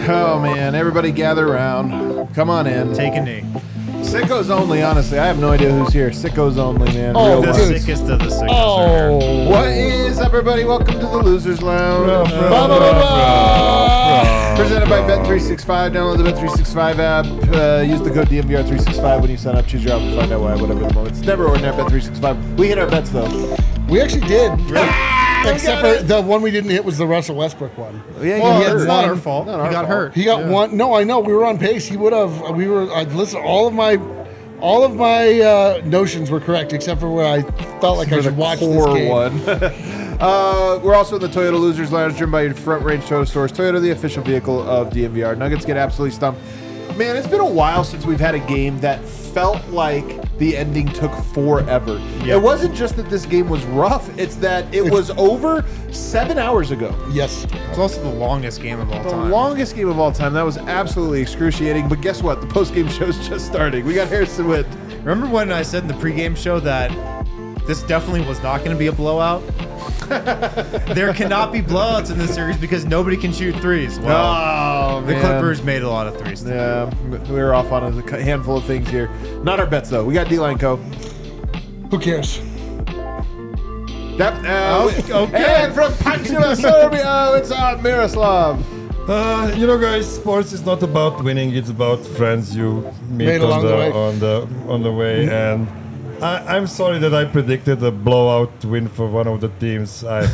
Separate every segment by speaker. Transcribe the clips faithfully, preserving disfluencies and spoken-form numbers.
Speaker 1: Oh man, everybody gather around. Come on in.
Speaker 2: Take a knee.
Speaker 1: Sickos only, honestly. I have no idea who's here. Sickos only, man.
Speaker 3: Oh,
Speaker 1: Real
Speaker 2: The
Speaker 1: ones.
Speaker 3: dude.
Speaker 2: sickest of the sickest
Speaker 3: Oh.
Speaker 2: are here.
Speaker 1: What is up, everybody? Welcome to the Losers Lounge.
Speaker 3: Blah, blah, blah, blah.
Speaker 1: Presented by Bet three sixty-five. Download the Bet three sixty-five app. Uh, use the code D M V R three sixty-five when you sign up. Choose your outfit. Find out why. Whatever the moment. It's never ordinary Bet three sixty-five. We hit our bets, though.
Speaker 3: We actually did. Except
Speaker 1: got
Speaker 3: for the one we didn't hit was the Russell Westbrook one.
Speaker 1: Yeah,
Speaker 3: Well,
Speaker 1: you
Speaker 3: it's
Speaker 1: hurt.
Speaker 2: It's not
Speaker 3: one.
Speaker 2: our fault.
Speaker 1: Not
Speaker 2: He
Speaker 1: our
Speaker 2: got
Speaker 1: fault.
Speaker 2: hurt.
Speaker 3: He got
Speaker 1: Yeah.
Speaker 3: one. No, I know. We were on pace. He would have. We were. I listen. All of my, all of my uh, notions were correct, except for where I felt like I
Speaker 1: For
Speaker 3: should
Speaker 1: the
Speaker 3: watch this
Speaker 1: core
Speaker 3: game.
Speaker 1: one. uh, we're also in the Toyota Losers Lounge, driven by your Front Range Toyota stores. Toyota, the official vehicle of D M V R. Nuggets get absolutely stumped. Man, it's been a while since we've had a game that felt like the ending took forever.
Speaker 2: Yep.
Speaker 1: It wasn't just that this game was rough; it's that it was over seven hours ago.
Speaker 3: Yes.
Speaker 2: It's also the longest game of all
Speaker 1: The
Speaker 2: time.
Speaker 1: longest game of all time. That was absolutely excruciating. But guess what? The post-game show's just starting. We got Harrison Witt.
Speaker 2: Remember when I said in the pregame show that this definitely was not going to be a blowout? There cannot be blowouts in this series because nobody can shoot threes. Well,
Speaker 1: Oh,
Speaker 2: the
Speaker 1: man.
Speaker 2: Clippers made a lot of threes.
Speaker 1: Yeah, we were off on a handful of things here. Not our bets, though. We got D-Line Co.
Speaker 3: Who cares?
Speaker 1: Yep. Uh,
Speaker 2: Oh, okay.
Speaker 1: And from Pančeva, Serbia, it's uh, Miroslav.
Speaker 4: Uh, you know, guys, sports is not about winning; it's about friends you meet
Speaker 3: Made
Speaker 4: on
Speaker 3: along
Speaker 4: the,
Speaker 3: the way.
Speaker 4: on the on the way. And I, I'm sorry that I predicted a blowout win for one of the teams. I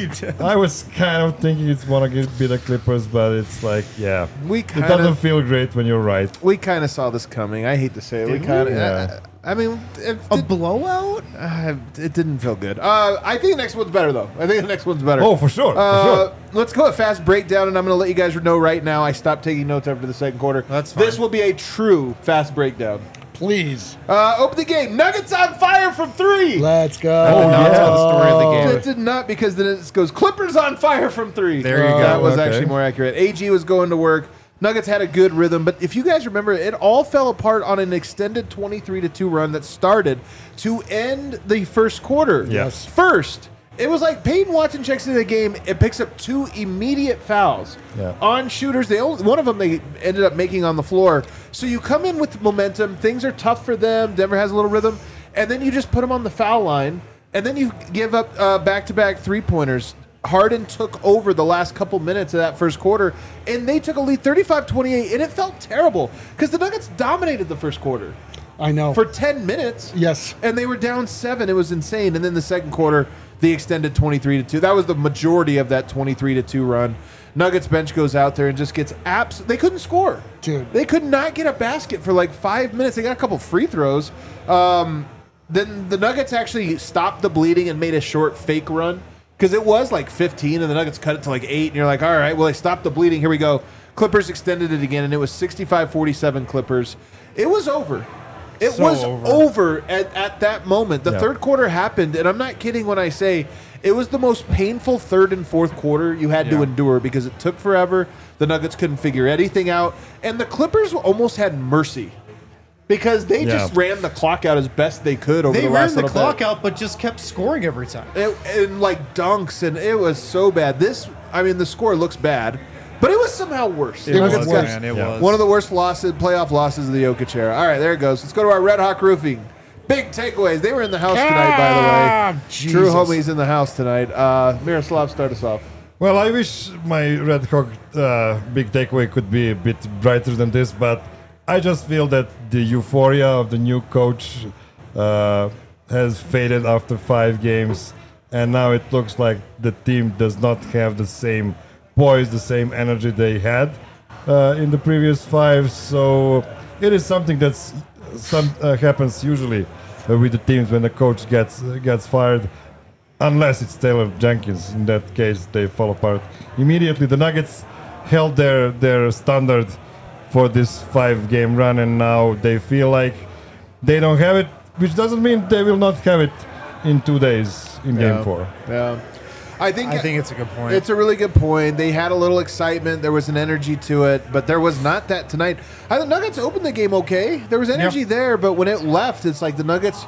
Speaker 4: I was kind of thinking it's gonna be the Clippers, but it's like, yeah,
Speaker 1: We
Speaker 4: it
Speaker 1: kind
Speaker 4: doesn't
Speaker 1: of
Speaker 4: feel great when you're right.
Speaker 1: we kind of saw this coming. I hate to say it. We
Speaker 2: Did
Speaker 1: kind of.
Speaker 4: we? Yeah.
Speaker 1: I mean, it,
Speaker 2: A
Speaker 1: did-
Speaker 2: blowout?
Speaker 1: uh, it didn't feel good. Uh, I think the next one's better, though. I think the next one's better.
Speaker 4: Oh, for sure, for
Speaker 1: Uh,
Speaker 4: sure.
Speaker 1: Let's go a fast breakdown, and I'm going to let you guys know right now. I stopped taking notes after the second quarter.
Speaker 2: That's fine.
Speaker 1: This will be a true fast breakdown.
Speaker 3: Please.
Speaker 1: Uh, open the game. Nuggets on fire from three.
Speaker 3: Let's go.
Speaker 2: That did not tell the story of the game.
Speaker 1: It did not, because then it goes Clippers on fire from three.
Speaker 2: There you go.
Speaker 1: That was
Speaker 4: Okay.
Speaker 1: actually more accurate. A G was going to work. Nuggets had a good rhythm, but if you guys remember, it all fell apart on an extended twenty-three to two run that started to end the first quarter.
Speaker 4: Yes.
Speaker 1: First, it was like Peyton Watson checks into the game. It picks up two immediate fouls
Speaker 4: Yeah.
Speaker 1: on shooters. They only, one of them they ended up making on the floor. So you come in with momentum. Things are tough for them. Denver has a little rhythm, and then you just put them on the foul line, and then you give up uh, back-to-back three-pointers. Harden took over the last couple minutes of that first quarter, and they took a lead thirty-five twenty-eight, and it felt terrible because the Nuggets dominated the first quarter
Speaker 3: I know.
Speaker 1: for ten minutes.
Speaker 3: Yes.
Speaker 1: And they were down seven. It was insane. And then the second quarter, the extended twenty-three to two. That was the majority of that twenty-three to two run. Nuggets bench goes out there and just gets abs. They couldn't score.
Speaker 3: Dude.
Speaker 1: They could not get a basket for like five minutes. They got a couple free throws. Um, then the Nuggets actually stopped the bleeding and made a short fake run because it was like fifteen, and the Nuggets cut it to like eight. And you're like, all right, well, they stopped the bleeding. Here we go. Clippers extended it again, and it was sixty-five forty-seven Clippers. It was over. It
Speaker 4: So
Speaker 1: was
Speaker 4: over.
Speaker 1: over at, at that moment. The
Speaker 4: Yeah.
Speaker 1: third quarter happened, and I'm not kidding when I say it was the most painful third and fourth quarter you had to
Speaker 2: Yeah.
Speaker 1: endure because it took forever. The Nuggets couldn't figure anything out, and the Clippers almost had mercy because they
Speaker 4: Yeah.
Speaker 1: just ran the clock out as best they could over
Speaker 2: They
Speaker 1: the
Speaker 2: ran
Speaker 1: last
Speaker 2: the
Speaker 1: little
Speaker 2: clock
Speaker 1: bit.
Speaker 2: out, but just kept scoring every time.
Speaker 1: It, and like dunks, and it was so bad. This, I mean, the score looks bad, but it was somehow worse.
Speaker 3: It
Speaker 1: The
Speaker 3: was
Speaker 1: Nuggets
Speaker 3: worse.
Speaker 1: got-
Speaker 2: Man, it
Speaker 4: Yeah.
Speaker 2: was.
Speaker 1: one of the worst losses, playoff losses of the Jokic era. All right, there it goes. Let's go to our Red Hawk Roofing. Big takeaways. They were in the house tonight, by the
Speaker 3: Ah,
Speaker 1: way.
Speaker 3: Jesus.
Speaker 1: True homies in the house tonight. Uh, Miroslav, start us off.
Speaker 4: Well, I wish my Red Hawk uh, big takeaway could be a bit brighter than this, but I just feel that the euphoria of the new coach uh, has faded after five games, and now it looks like the team does not have the same poise, the same energy they had uh, in the previous five. So it is something that's some uh, happens usually uh, with the teams when the coach gets uh, gets fired. Unless it's Taylor Jenkins, in that case they fall apart immediately. The Nuggets held their their standard for this five-game run, and now they feel like they don't have it, which doesn't mean they will not have it in two days in
Speaker 1: Yeah.
Speaker 4: Game Four.
Speaker 1: Yeah. I think
Speaker 2: I think it's a good point.
Speaker 1: it's a really good point. They had a little excitement. There was an energy to it, but there was not that tonight. I think Nuggets opened the game okay. There was energy
Speaker 2: Yep.
Speaker 1: there, but when it left, it's like the Nuggets.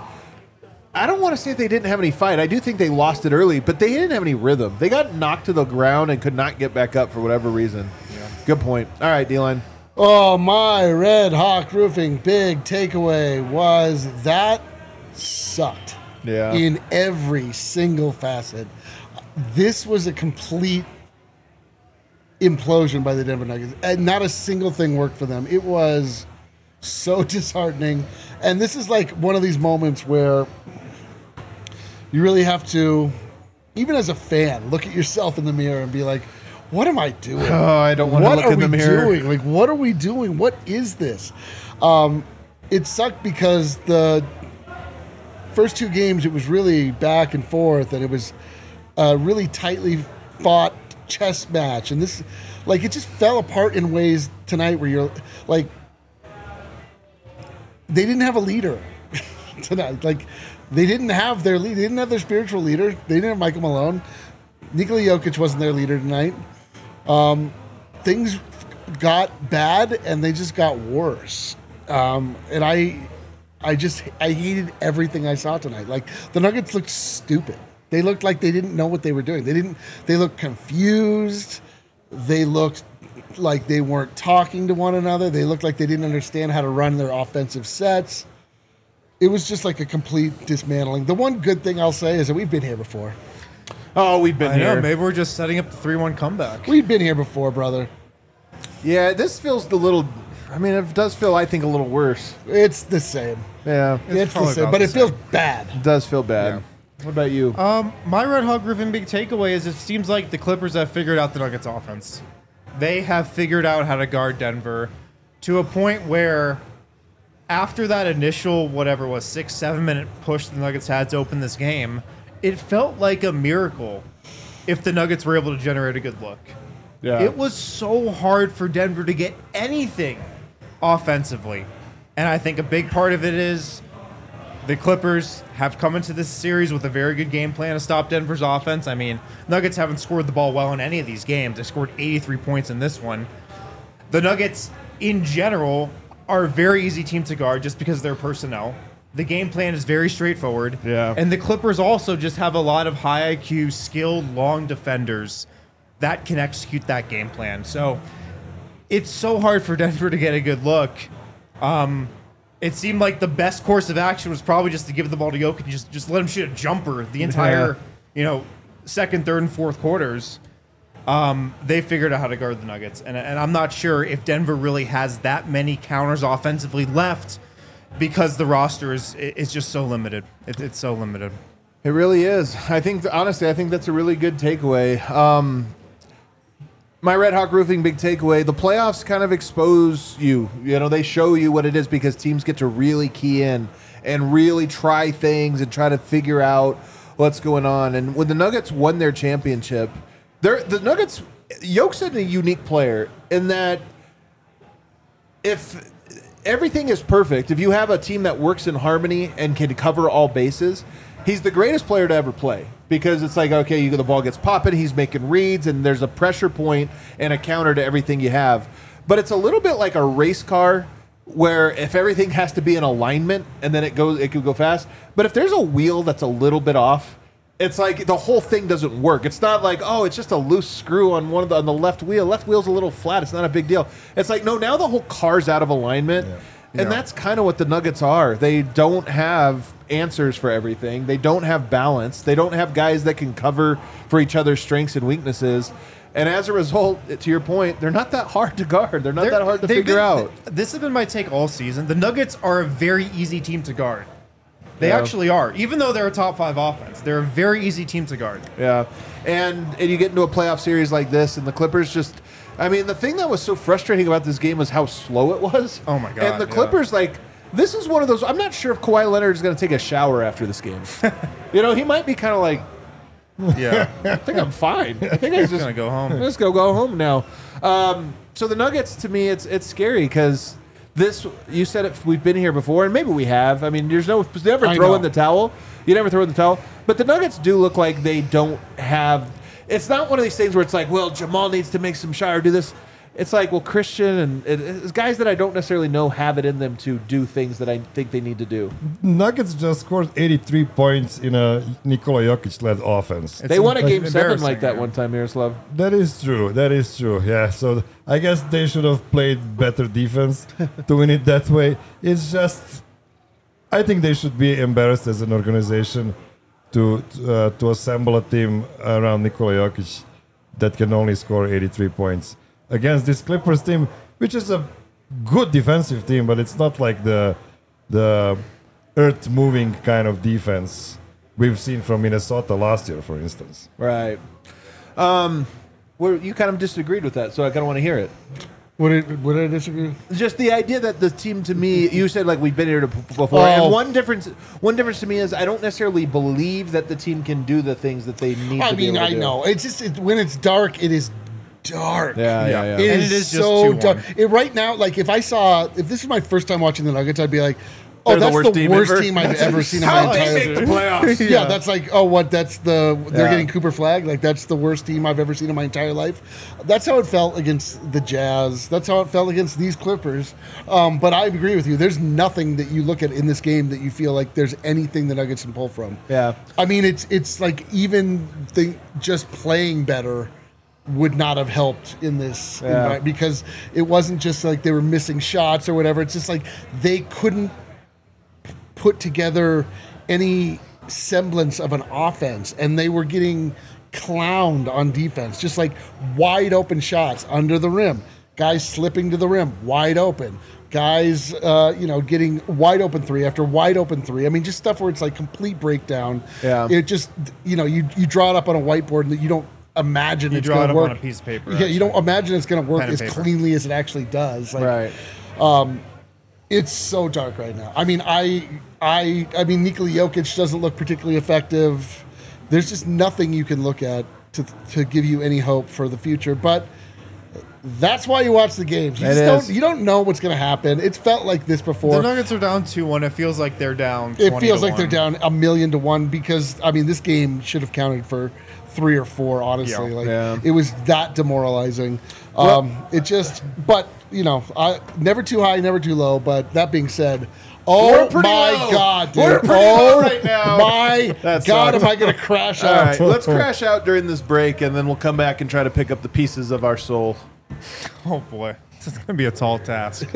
Speaker 1: I don't want to say if they didn't have any fight. I do think they lost it early, but they didn't have any rhythm. They got knocked to the ground and could not get back up for whatever reason. Good point. All right, D-line.
Speaker 3: Oh, my Red Hawk Roofing big takeaway was that sucked.
Speaker 1: Yeah.
Speaker 3: In every single facet. This was a complete implosion by the Denver Nuggets. And not a single thing worked for them. It was so disheartening. And this is like one of these moments where you really have to, even as a fan, look at yourself in the mirror and be like, what am I doing?
Speaker 1: Oh, I don't want to
Speaker 3: What
Speaker 1: look
Speaker 3: are
Speaker 1: in the
Speaker 3: we
Speaker 1: mirror.
Speaker 3: doing? Like, what are we doing? What is this? Um, it sucked because the first two games, it was really back and forth, and it was a really tightly fought chess match. And this, like, it just fell apart in ways tonight where you're like, they didn't have a leader tonight. Like, they didn't have their lead. They didn't have their spiritual leader. They didn't have Michael Malone. Nikola Jokic wasn't their leader tonight. Um, things got bad, and they just got worse. Um, and I, I just I hated everything I saw tonight. Like, the Nuggets looked stupid. They looked like they didn't know what they were doing. They didn't. They looked confused. They looked like they weren't talking to one another. They looked like they didn't understand how to run their offensive sets. It was just like a complete dismantling. The one good thing I'll say is that we've been here before.
Speaker 1: Oh, we've been
Speaker 2: I
Speaker 1: here.
Speaker 2: know. Maybe we're just setting up the three one comeback.
Speaker 3: We've been here before, brother.
Speaker 1: Yeah, this feels a little. I mean, it does feel, I think, a little worse.
Speaker 3: It's the same.
Speaker 1: Yeah,
Speaker 3: It's, the
Speaker 2: probably
Speaker 3: same,
Speaker 2: about
Speaker 3: but
Speaker 2: the
Speaker 3: it feels
Speaker 2: same.
Speaker 3: bad.
Speaker 1: it does feel bad. What about you?
Speaker 2: Um, my Red Hawk Griffin big takeaway is it seems like the Clippers have figured out the Nuggets offense. They have figured out how to guard Denver to a point where after that initial, whatever it was, six, seven minute push the Nuggets had to open this game, it felt like a miracle if the Nuggets were able to generate a good look.
Speaker 1: yeah,
Speaker 2: It was so hard for Denver to get anything offensively. And I think a big part of it is the Clippers have come into this series with a very good game plan to stop Denver's offense. I mean, Nuggets haven't scored the ball well in any of these games. They scored eighty-three points in this one. The Nuggets, in general, are a very easy team to guard just because of their personnel. The game plan is very straightforward.
Speaker 1: Yeah.
Speaker 2: And the Clippers also just have a lot of high I Q, skilled, long defenders that can execute that game plan. So it's so hard for Denver to get a good look. Um, it seemed like the best course of action was probably just to give the ball to Jokic and just, just let him shoot a jumper the entire,
Speaker 1: Yeah.
Speaker 2: you know, second, third, and fourth quarters. Um, they figured out how to guard the Nuggets. And, and I'm not sure if Denver really has that many counters offensively left because the roster is is just so limited. It, it's so limited.
Speaker 1: it really is. I think, honestly, I think that's a really good takeaway. Um, my Red Hawk Roofing big takeaway, the playoffs kind of expose you. You know, they show you what it is because teams get to really key in and really try things and try to figure out what's going on. And when the Nuggets won their championship, they're, the Nuggets, Yoke's a unique player in that if everything is perfect, if you have a team that works in harmony and can cover all bases, he's the greatest player to ever play because it's like, okay, you, the ball gets popping, he's making reads, and there's a pressure point and a counter to everything you have. But it's a little bit like a race car where if everything has to be in alignment and then it goes, it could go fast. But if there's a wheel that's a little bit off, it's like the whole thing doesn't work. It's not like, oh, it's just a loose screw on one of the on the left wheel. Left wheel's a little flat. It's not a big deal. It's like, no, now the whole car's out of alignment.
Speaker 4: Yeah.
Speaker 1: And
Speaker 2: Yeah.
Speaker 1: that's kind of what the Nuggets are. They don't have answers for everything. They don't have balance. They don't have guys that can cover for each other's strengths and weaknesses. And as a result, to your point, they're not that hard to guard. They're not
Speaker 2: They're-
Speaker 1: that hard to
Speaker 2: they've
Speaker 1: figure
Speaker 2: been-
Speaker 1: out.
Speaker 2: This has been my take all season. The Nuggets are a very easy team to guard. They
Speaker 1: Yeah.
Speaker 2: actually are. Even though they're a top five offense, they're a very easy team to guard.
Speaker 1: Yeah, and and you get into a playoff series like this, and the Clippers just. I mean, the thing that was so frustrating about this game was how slow it was.
Speaker 2: Oh, my God,
Speaker 1: And the
Speaker 2: yeah.
Speaker 1: Clippers, like, this is one of those. I'm not sure if Kawhi Leonard is going to take a shower after this game. You know, he might be kind of like,
Speaker 2: Yeah.
Speaker 1: I think I'm fine. I think I
Speaker 2: He's
Speaker 1: just
Speaker 2: going to go home.
Speaker 1: Let's go go home now. Um, so the Nuggets, to me, it's it's scary because this. You said it. We've been here before, and maybe we have. I mean, there's no there's never
Speaker 3: I
Speaker 1: throw
Speaker 3: know.
Speaker 1: in the towel. You never throw in the towel. But the Nuggets do look like they don't have. It's not one of these things where it's like, well, Jamal needs to make some shot or do this. It's like, well, Christian and it, it's guys that I don't necessarily know have it in them to do things that I think they need to do.
Speaker 4: Nuggets just scored eighty-three points in a Nikola Jokic-led offense.
Speaker 2: It's
Speaker 1: They won a
Speaker 2: em-
Speaker 1: game seven
Speaker 2: embarrassing,
Speaker 1: like that
Speaker 2: yeah.
Speaker 1: one time, Miroslav.
Speaker 4: That is true. That is true. Yeah. So I guess they should have played better defense to win it that way. It's just, I think they should be embarrassed as an organization to uh, to assemble a team around Nikola Jokic that can only score eighty-three points against this Clippers team, which is a good defensive team, but it's not like the the earth-moving kind of defense we've seen from Minnesota last year, for instance.
Speaker 1: Right. Um, where you kind of disagreed with that, so I kind of want to hear it.
Speaker 3: What did, what did I disagree with?
Speaker 1: Just the idea that the team, to me, you said like we've been here to- before,
Speaker 3: Oh.
Speaker 1: and one difference, one difference to me is I don't necessarily believe that the team can do the things that they need.
Speaker 3: I
Speaker 1: to be
Speaker 3: mean,
Speaker 1: able to
Speaker 3: I
Speaker 1: do.
Speaker 3: know. It's just it, when it's dark, it is dark.
Speaker 1: Yeah, yeah, yeah.
Speaker 3: It
Speaker 2: And
Speaker 3: is,
Speaker 2: it is just
Speaker 3: so
Speaker 2: two
Speaker 3: dark.
Speaker 2: one.
Speaker 3: It, right now, like if I saw, if this is my first time watching the Nuggets, I'd be like, oh,
Speaker 1: They're the
Speaker 3: that's
Speaker 1: worst
Speaker 3: the
Speaker 1: team
Speaker 3: worst
Speaker 1: ever.
Speaker 3: team I've ever seen in
Speaker 1: How
Speaker 3: my
Speaker 1: they
Speaker 3: entire
Speaker 1: make the playoffs?
Speaker 3: Yeah, that's like, oh, what? That's the they're
Speaker 1: Yeah.
Speaker 3: getting Cooper Flag. Like that's the worst team I've ever seen in my entire life. That's how it felt against the Jazz. That's how it felt against these Clippers. Um, but I agree with you. There's nothing that you look at in this game that you feel like there's anything the Nuggets can pull from.
Speaker 1: Yeah.
Speaker 3: I mean, it's it's like even the, just playing better would not have helped in this
Speaker 1: Yeah.
Speaker 3: environment because it wasn't just like they were missing shots or whatever. It's just like they couldn't put together any semblance of an offense, and they were getting clowned on defense, just like wide open shots under the rim, guys slipping to the rim, wide open. Guys, uh, you know, getting wide open three after wide open three. I mean, just stuff where it's like complete breakdown.
Speaker 1: Yeah.
Speaker 3: It just, you know, you you draw it up on a whiteboard and you don't imagine
Speaker 2: You
Speaker 3: it's
Speaker 2: draw
Speaker 3: going
Speaker 2: it
Speaker 3: to
Speaker 2: up
Speaker 3: work.
Speaker 2: on a piece of paper.
Speaker 3: Yeah, you don't imagine it's going to work
Speaker 2: Pen and
Speaker 3: as
Speaker 2: paper.
Speaker 3: cleanly as it actually does. Like,
Speaker 1: Right.
Speaker 3: it's so dark right now. I mean, I, I, I mean, Nikola Jokic doesn't look particularly effective. There's just nothing you can look at to to give you any hope for the future. But that's why you watch the games. You
Speaker 1: It
Speaker 3: just
Speaker 1: is.
Speaker 3: don't. You don't know what's going to happen. It's felt like this
Speaker 2: The
Speaker 3: before.
Speaker 2: Nuggets are down two one. It feels like they're down.
Speaker 3: It
Speaker 2: twenty
Speaker 3: feels
Speaker 2: to
Speaker 3: like they're
Speaker 2: one.
Speaker 3: down a million to one because I mean, this game should have counted for three or four. Honestly,
Speaker 2: Yeah.
Speaker 3: like
Speaker 1: Yeah.
Speaker 3: it was that demoralizing.
Speaker 1: Well-
Speaker 3: Um, it just, but you know, I never too high, never too low. But that being said. Oh
Speaker 1: We're pretty
Speaker 3: my
Speaker 1: low.
Speaker 3: God, dude.
Speaker 1: We're pretty
Speaker 3: oh
Speaker 1: low right now.
Speaker 3: My
Speaker 1: That
Speaker 3: God,
Speaker 1: sucks.
Speaker 3: am I going to crash
Speaker 1: All
Speaker 3: out?
Speaker 1: right, let's crash out during this break, and then we'll come back and try to pick up the pieces of our soul.
Speaker 2: Oh boy, this is gonna be a tall task.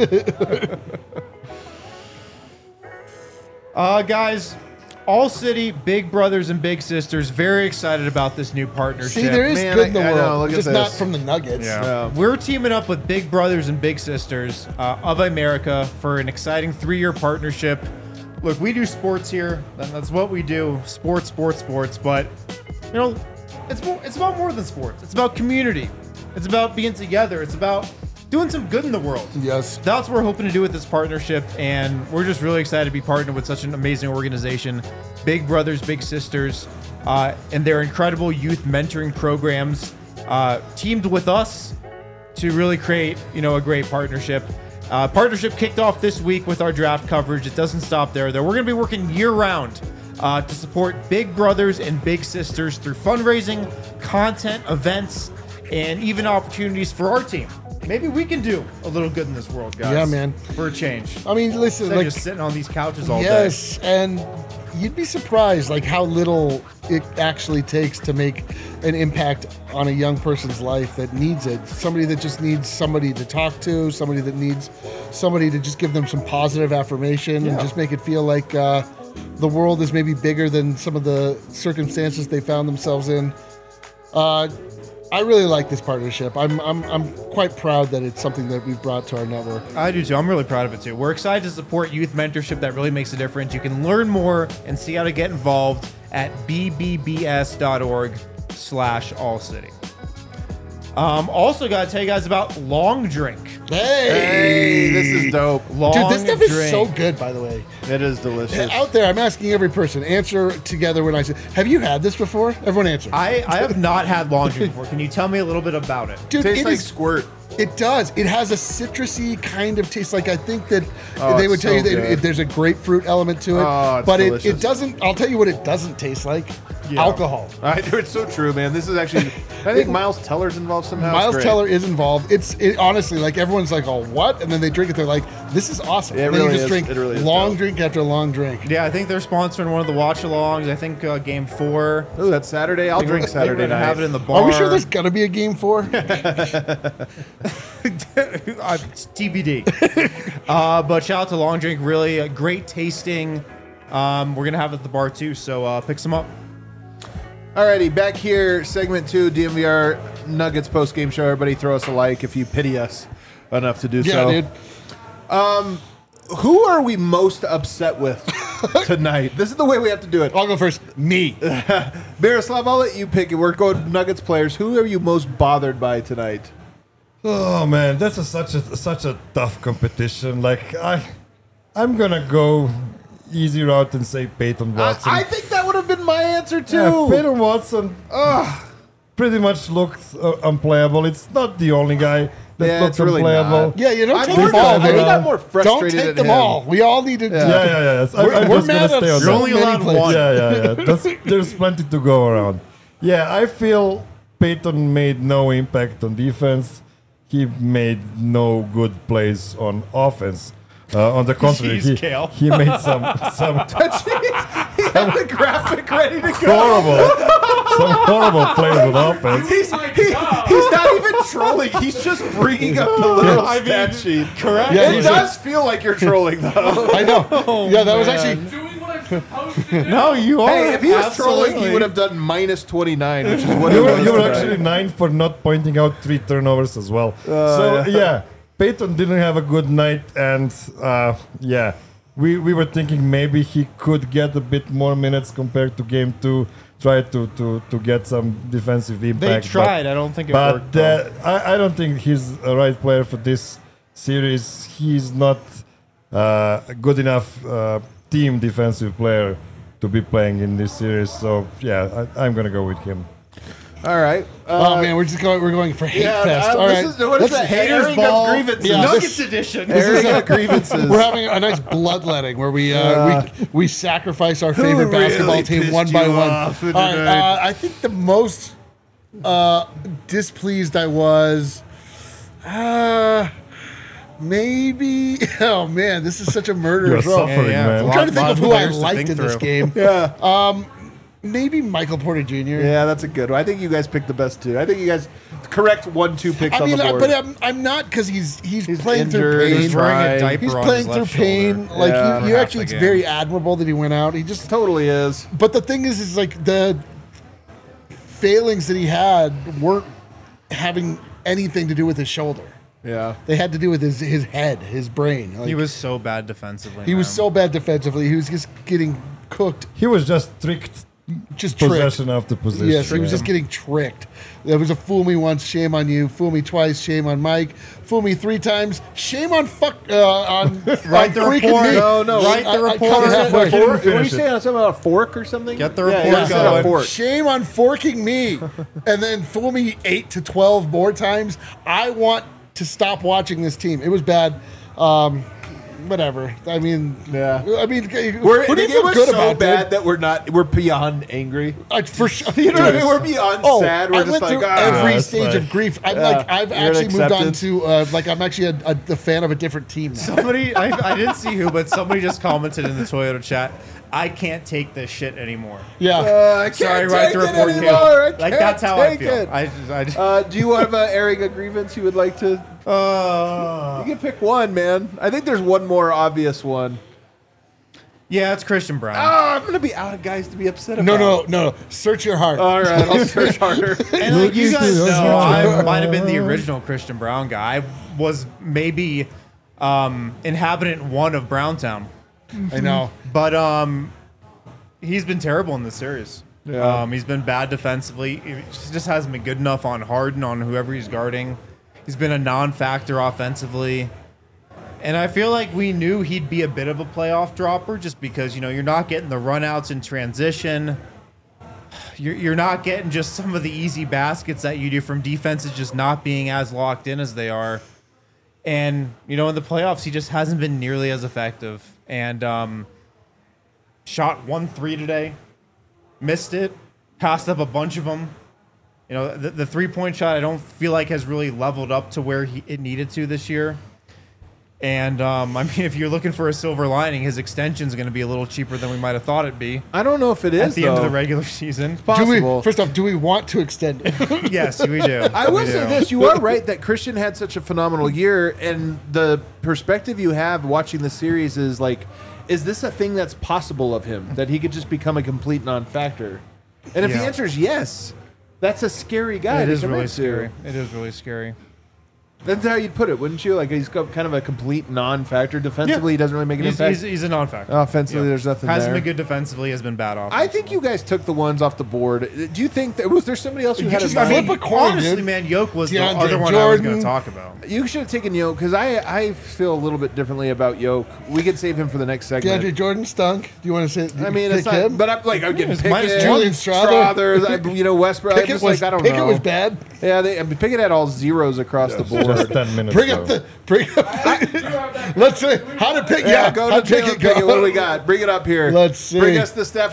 Speaker 2: uh, guys, All City, Big Brothers and Big Sisters, very excited about this new partnership.
Speaker 3: See, there is
Speaker 1: Man,
Speaker 3: good in the
Speaker 1: I- I
Speaker 3: world,
Speaker 1: know, look at
Speaker 3: just not
Speaker 1: this.
Speaker 3: from the Nuggets.
Speaker 2: Yeah.
Speaker 1: Yeah.
Speaker 2: We're teaming up with Big Brothers and Big Sisters uh, of America for an exciting three-year partnership. Look, we do sports here. and That's what we do. Sports, sports, sports. But, you know, it's more, it's about more than sports. It's about community. It's about being together. It's about doing some good in the world.
Speaker 3: Yes.
Speaker 2: That's what we're hoping to do with this partnership, and we're just really excited to be partnered with such an amazing organization, Big Brothers, Big Sisters, uh, and their incredible youth mentoring programs, uh, teamed with us to really create, you know, a great partnership. Uh, partnership kicked off this week with our draft coverage. It doesn't stop there, though. We're going to be working year-round uh, to support Big Brothers and Big Sisters through fundraising, content, events, and even opportunities for our team. Maybe we can do a little good in this world, guys.
Speaker 3: Yeah, man.
Speaker 2: For a change.
Speaker 3: I mean, listen,
Speaker 2: Instead
Speaker 3: like
Speaker 2: of just sitting on these couches all day.
Speaker 3: yes, and you'd be surprised like how little it actually takes to make an impact on a young person's life that needs it. Somebody that just needs somebody to talk to, somebody that needs somebody to just give them some positive affirmation and
Speaker 2: Yeah.
Speaker 3: just make it feel like uh, the world is maybe bigger than some of the circumstances they found themselves in. Uh, I really like this partnership. I'm, I'm I'm quite proud that it's something that we've brought to our network.
Speaker 2: I do too. I'm really proud of it too. We're excited to support youth mentorship that really makes a difference. You can learn more and see how to get involved at bbbs.org slash all city. Um, also, got to tell you guys about Long Drink.
Speaker 1: Hey, this is dope.
Speaker 2: Long
Speaker 3: Dude, this stuff
Speaker 2: Drink.
Speaker 3: is so good, by the way.
Speaker 1: It is delicious.
Speaker 3: Out there, I'm asking every person, answer together when I say, have you had this before? Everyone answer.
Speaker 2: I, I have not had Long Drink before. Can you tell me a little bit about it?
Speaker 3: Dude,
Speaker 1: Tastes
Speaker 3: it
Speaker 1: like
Speaker 3: is-
Speaker 1: squirt.
Speaker 3: It does. It has a citrusy kind of taste. Like I think that
Speaker 1: Oh,
Speaker 3: they would
Speaker 1: it's
Speaker 3: tell you
Speaker 1: so
Speaker 3: that
Speaker 1: good.
Speaker 3: it, there's a grapefruit element to it,
Speaker 1: Oh, it's
Speaker 3: but it,
Speaker 1: delicious.
Speaker 3: it doesn't. I'll tell you what it doesn't taste like. alcohol.
Speaker 1: I, it's so true, man. This is actually. I think Miles Teller's involved somehow.
Speaker 3: Miles
Speaker 1: It's great.
Speaker 3: Teller is involved. It's it, honestly like everyone's like, oh, what? And then they drink it. They're like, this is awesome.
Speaker 1: Yeah, it
Speaker 3: and then
Speaker 1: really
Speaker 3: you just
Speaker 1: is.
Speaker 3: drink
Speaker 1: It really is
Speaker 3: long
Speaker 1: dope.
Speaker 3: drink after long drink.
Speaker 2: Yeah, I think they're sponsoring one of the watch-alongs. I think uh, Game Four.
Speaker 1: Ooh, that's Saturday. I'll drink
Speaker 2: They're
Speaker 1: Saturday
Speaker 2: gonna
Speaker 1: night.
Speaker 2: have it in the bar.
Speaker 3: Are we sure there's gonna be a game four?
Speaker 2: uh, it's T B D. uh, but shout out to Long Drink, really uh, great tasting. Um, we're gonna have it at the bar too, so uh, pick some up.
Speaker 1: Alrighty, back here, segment two, D M V R Nuggets post game show. Everybody, throw us a like if you pity us enough to do
Speaker 3: Yeah,
Speaker 1: so.
Speaker 3: dude.
Speaker 1: Who are we most upset with tonight? This is the way we have to do it.
Speaker 3: I'll go first. Me.
Speaker 1: Miroslav, I'll let you pick it. We're going Nuggets players. Who are you most bothered by tonight?
Speaker 4: Oh man, that's a, such a such a tough competition. Like I, I'm gonna go easy route and say Peyton Watson.
Speaker 1: I, I think that would have been my answer too.
Speaker 4: Yeah, Peyton Watson, ugh, pretty much looked uh, unplayable. It's not the only guy that
Speaker 1: Yeah,
Speaker 4: looked
Speaker 1: it's really
Speaker 4: unplayable.
Speaker 1: not.
Speaker 3: Yeah, you don't
Speaker 1: I'm
Speaker 3: take
Speaker 1: more,
Speaker 3: them all.
Speaker 1: I think
Speaker 3: dude.
Speaker 1: I'm more frustrated
Speaker 3: Don't take
Speaker 1: at
Speaker 3: them
Speaker 1: him.
Speaker 3: all. We all need to.
Speaker 4: Yeah, yeah, yeah. yes. I,
Speaker 3: We're-
Speaker 4: I'm
Speaker 3: we're
Speaker 4: just gonna
Speaker 3: mad at
Speaker 4: stay on
Speaker 3: so
Speaker 4: that.
Speaker 2: You're only
Speaker 3: many
Speaker 2: allowed
Speaker 3: places.
Speaker 2: one.
Speaker 4: Yeah, yeah, yeah. That's, there's plenty to go around. Yeah, I feel Peyton made no impact on defense. He made no good plays on offense. Uh, on the contrary,
Speaker 2: Jeez,
Speaker 4: he,
Speaker 2: Kale.
Speaker 4: he made some some
Speaker 1: He had the graphic ready to go.
Speaker 4: horrible some horrible plays on offense.
Speaker 1: He's, he, he's not even trolling. He's just bringing up the little
Speaker 2: I mean,
Speaker 1: stat sheet.
Speaker 2: correct.
Speaker 3: Yeah,
Speaker 1: It
Speaker 3: he's
Speaker 1: does feel like you're trolling, though.
Speaker 3: I know. yeah, that was
Speaker 2: man.
Speaker 3: actually.
Speaker 5: Doing what I'm supposed to do.
Speaker 2: No, you are.
Speaker 1: Hey, if he was trolling, he
Speaker 2: Absolutely.
Speaker 1: would have done minus twenty-nine, which is what
Speaker 4: You
Speaker 1: he
Speaker 4: were,
Speaker 1: was
Speaker 4: you were
Speaker 1: tonight.
Speaker 4: actually nine for not pointing out three turnovers as well. so yeah. Peyton didn't have a good night, and uh, yeah, we, we were thinking maybe he could get a bit more minutes compared to game two, try to, to, to get some defensive
Speaker 2: They
Speaker 4: impact.
Speaker 2: tried. I don't think it
Speaker 4: but
Speaker 2: worked.
Speaker 4: but
Speaker 2: though.
Speaker 4: uh, I, I don't think he's a right player for this series. He's not uh, a good enough uh, team defensive player to be playing in this series. So yeah, I, I'm gonna go with him.
Speaker 1: All right.
Speaker 3: Oh
Speaker 1: Uh,
Speaker 3: man, we're just going. We're going for hate
Speaker 1: yeah,
Speaker 3: fest.
Speaker 1: uh,
Speaker 3: All
Speaker 1: this
Speaker 3: right.
Speaker 1: is, what is
Speaker 3: Let's-
Speaker 1: that? Airing
Speaker 3: ball.
Speaker 1: of grievances.
Speaker 3: Yeah,
Speaker 2: Nuggets
Speaker 3: this-
Speaker 2: edition.
Speaker 1: Airing of grievances.
Speaker 3: We're having a nice bloodletting where we uh, we we sacrifice our favorite basketball
Speaker 1: really
Speaker 3: team
Speaker 1: pissed
Speaker 3: one by
Speaker 1: you
Speaker 3: one.
Speaker 1: off
Speaker 3: All right,
Speaker 1: tonight?
Speaker 3: uh, I think the most uh, displeased I was, uh, maybe. Oh man, this is such a
Speaker 4: You're
Speaker 3: murderous row.
Speaker 4: suffering,
Speaker 2: yeah,
Speaker 4: man.
Speaker 3: I'm trying to think
Speaker 2: Lot-
Speaker 3: of
Speaker 2: lot
Speaker 3: who I
Speaker 2: layers to
Speaker 3: liked
Speaker 2: think
Speaker 3: in this
Speaker 2: through.
Speaker 3: game.
Speaker 1: yeah.
Speaker 3: Maybe Michael Porter Junior
Speaker 1: Yeah, that's a good one. I think you guys picked the best two. I think you guys correct one, two picks
Speaker 3: I
Speaker 1: on
Speaker 3: mean,
Speaker 1: the
Speaker 3: I-
Speaker 1: board.
Speaker 3: but I'm, I'm not because he's, he's
Speaker 1: He's
Speaker 3: playing through
Speaker 1: injured,
Speaker 3: pain.
Speaker 1: he's
Speaker 2: wearing a
Speaker 1: trying.
Speaker 2: diaper
Speaker 3: He's
Speaker 2: on
Speaker 3: playing
Speaker 2: his
Speaker 3: through
Speaker 2: left
Speaker 3: pain.
Speaker 2: shoulder.
Speaker 3: Like
Speaker 1: Yeah.
Speaker 3: you, you
Speaker 2: Half
Speaker 3: actually,
Speaker 2: the
Speaker 3: it's
Speaker 2: game.
Speaker 3: very admirable that he went out. He just
Speaker 1: Totally is.
Speaker 3: But the thing is, is like the failings that he had weren't having anything to do with his shoulder.
Speaker 1: Yeah.
Speaker 3: They had to do with his his head, his brain. Like,
Speaker 2: He was so bad defensively.
Speaker 3: he was
Speaker 2: man.
Speaker 3: so bad defensively. He was just getting cooked,
Speaker 4: He was just tricked
Speaker 3: just tricked.
Speaker 4: possession after possession.
Speaker 3: Yes, he was
Speaker 4: man.
Speaker 3: just getting tricked. There was a fool me once, shame on you. Fool me twice, shame on Mike. Fool me three times, shame on fuck uh, on
Speaker 2: Write
Speaker 3: on
Speaker 2: the
Speaker 3: freaking
Speaker 2: report.
Speaker 3: me.
Speaker 1: No, no.
Speaker 2: Write the
Speaker 3: I- I
Speaker 2: report.
Speaker 3: cut it halfway.
Speaker 4: He didn't
Speaker 1: Fork? What were you
Speaker 4: finish it.
Speaker 1: saying? Something about a fork or something?
Speaker 2: Get the
Speaker 1: Yeah,
Speaker 2: report
Speaker 1: yeah, you said a
Speaker 2: going.
Speaker 1: fork.
Speaker 3: Shame on forking me, and then fool me eight to twelve more times. I want to stop watching this team. It was bad. Um, whatever. I mean,
Speaker 1: Yeah.
Speaker 3: I mean,
Speaker 1: We're,
Speaker 3: who do you
Speaker 1: it
Speaker 3: feel
Speaker 1: was
Speaker 3: good
Speaker 1: so
Speaker 3: about,
Speaker 1: bad
Speaker 3: dude?
Speaker 1: that we're not. We're beyond angry.
Speaker 3: I, for sure.
Speaker 1: You know what I mean? We're beyond
Speaker 3: Oh,
Speaker 1: sad. We're
Speaker 3: I
Speaker 1: just
Speaker 3: went
Speaker 1: like
Speaker 3: through
Speaker 1: ah.
Speaker 3: every
Speaker 4: that's
Speaker 3: stage
Speaker 4: fine.
Speaker 3: of grief. I'm
Speaker 1: Yeah.
Speaker 3: like, I've
Speaker 1: You're
Speaker 3: actually moved on
Speaker 1: accepted.
Speaker 3: to uh, like I'm actually a, a, a fan of a different team now.
Speaker 2: Somebody, I, I didn't see who, but somebody just commented in the Toyota chat. I can't take this shit anymore.
Speaker 3: Yeah.
Speaker 1: Uh, I can't
Speaker 2: Sorry,
Speaker 1: take
Speaker 2: write the
Speaker 1: it
Speaker 2: report,
Speaker 1: anymore.
Speaker 2: Kale.
Speaker 1: I
Speaker 2: Like
Speaker 1: can't
Speaker 2: that's how I
Speaker 1: take
Speaker 2: feel.
Speaker 1: it.
Speaker 2: I just, I just,
Speaker 1: Uh, do you have uh, airing a grievance you would like to?
Speaker 2: uh,
Speaker 1: You can pick one, man. I think there's one more obvious one.
Speaker 2: yeah, it's Christian Brown.
Speaker 1: Oh, I'm gonna be out of guys to be upset about.
Speaker 3: no, no, no, no. Search your heart.
Speaker 1: All right, I'll search harder.
Speaker 2: And like you
Speaker 4: Look
Speaker 2: guys
Speaker 4: into
Speaker 2: know,
Speaker 4: the
Speaker 2: I
Speaker 4: heart.
Speaker 2: might have been the original Christian Brown guy. I was maybe um, inhabitant one of Browntown,
Speaker 3: I know.
Speaker 2: but um, he's been terrible in this series.
Speaker 1: Yeah.
Speaker 2: Um, he's been bad defensively. He just hasn't been good enough on Harden, on whoever he's guarding. He's been a non-factor offensively. And I feel like we knew he'd be a bit of a playoff dropper just because, you know, you're not getting the runouts in transition. You're, you're not getting just some of the easy baskets that you do from defenses just not being as locked in as they are. And, you know, in the playoffs, he just hasn't been nearly as effective. And um, shot one three today, missed it. passed up a bunch of them. You know, the, the three-point shot I don't feel like has really leveled up to where he, it needed to this year. And, um, I mean, if you're looking for a silver lining, his extension is going to be a little cheaper than we might have thought it'd be
Speaker 1: I don't know if it is
Speaker 2: at the
Speaker 1: though.
Speaker 2: end of the regular season.
Speaker 3: Do
Speaker 1: Possible.
Speaker 3: we, first off, do we want to extend it?
Speaker 2: Yes, we do.
Speaker 1: I will
Speaker 2: We
Speaker 1: say
Speaker 2: do.
Speaker 1: this: you are right that Christian had such a phenomenal year, and the perspective you have watching the series is like, is this a thing that's possible of him that he could just become a complete non-factor? And if the
Speaker 2: Yeah.
Speaker 1: answer is yes, that's a scary guy.
Speaker 2: It
Speaker 1: to
Speaker 2: is
Speaker 1: commit
Speaker 2: really
Speaker 1: to.
Speaker 2: scary. It is really scary.
Speaker 1: That's how you'd put it, wouldn't you? Like he's got kind of a complete non-factor defensively.
Speaker 2: Yeah.
Speaker 1: He doesn't really make an
Speaker 2: He's,
Speaker 1: impact.
Speaker 2: he's, he's a non-factor.
Speaker 1: Offensively,
Speaker 2: Yeah.
Speaker 1: there's nothing
Speaker 2: Hasn't
Speaker 1: there.
Speaker 2: been good defensively. Has been bad offensively.
Speaker 1: I think you guys took the ones off the board. Do you think that was there somebody else you,
Speaker 3: You
Speaker 1: had
Speaker 3: just
Speaker 1: in mind?
Speaker 3: flip a coin,
Speaker 2: honestly,
Speaker 3: dude.
Speaker 2: man, Yoke was the
Speaker 3: DeAndre
Speaker 2: other one I was going
Speaker 3: Jordan.
Speaker 2: to talk about.
Speaker 1: You should have taken Yoke because I I feel a little bit differently about Yoke. We could save him for the next segment.
Speaker 3: DeAndre Jordan stunk. Do you want to say?
Speaker 1: I mean,
Speaker 3: pick
Speaker 1: it's not,
Speaker 3: him?
Speaker 1: but I'm like I'm getting
Speaker 2: it's
Speaker 1: Pickett,
Speaker 2: minus
Speaker 3: Julian Strother.
Speaker 1: Strother, I- you know Westbrook. I'm
Speaker 3: Pickett
Speaker 1: just
Speaker 3: was
Speaker 1: like I don't
Speaker 3: Pickett
Speaker 1: know.
Speaker 3: was bad.
Speaker 1: Yeah, they, I mean, Pickett had all zeros across the board.
Speaker 4: Just ten minutes.
Speaker 3: Bring
Speaker 4: ago.
Speaker 3: up the bring up. Let's see how to pick.
Speaker 1: Yeah,
Speaker 3: Yeah,
Speaker 1: go
Speaker 3: how
Speaker 1: to
Speaker 3: to pick
Speaker 1: Jalen
Speaker 3: it.
Speaker 1: Pickett.
Speaker 3: Go.
Speaker 1: What do we got? Bring it up here.
Speaker 3: Let's see.
Speaker 1: Bring us the Steph.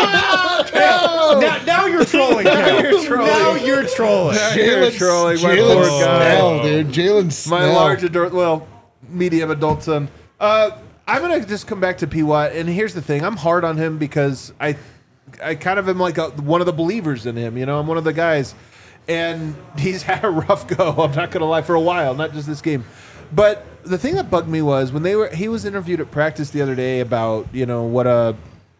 Speaker 1: Oh,
Speaker 2: Now, now you're trolling. Now
Speaker 1: you're trolling.
Speaker 2: Now you're trolling.
Speaker 1: You're
Speaker 3: Jalen
Speaker 1: trolling my
Speaker 3: Jalen
Speaker 1: poor guy.
Speaker 3: Snell, dude. Jalen Snell.
Speaker 1: My large adult, well, medium adult son. Uh, I'm gonna just come back to P. Watt, and here's the thing: I'm hard on him because I, I kind of am like a, one of the believers in him. You know, I'm one of the guys, and he's had a rough go. I'm not gonna lie, for a while, not just this game. But the thing that bugged me was when they were he was interviewed at practice the other day about you know what a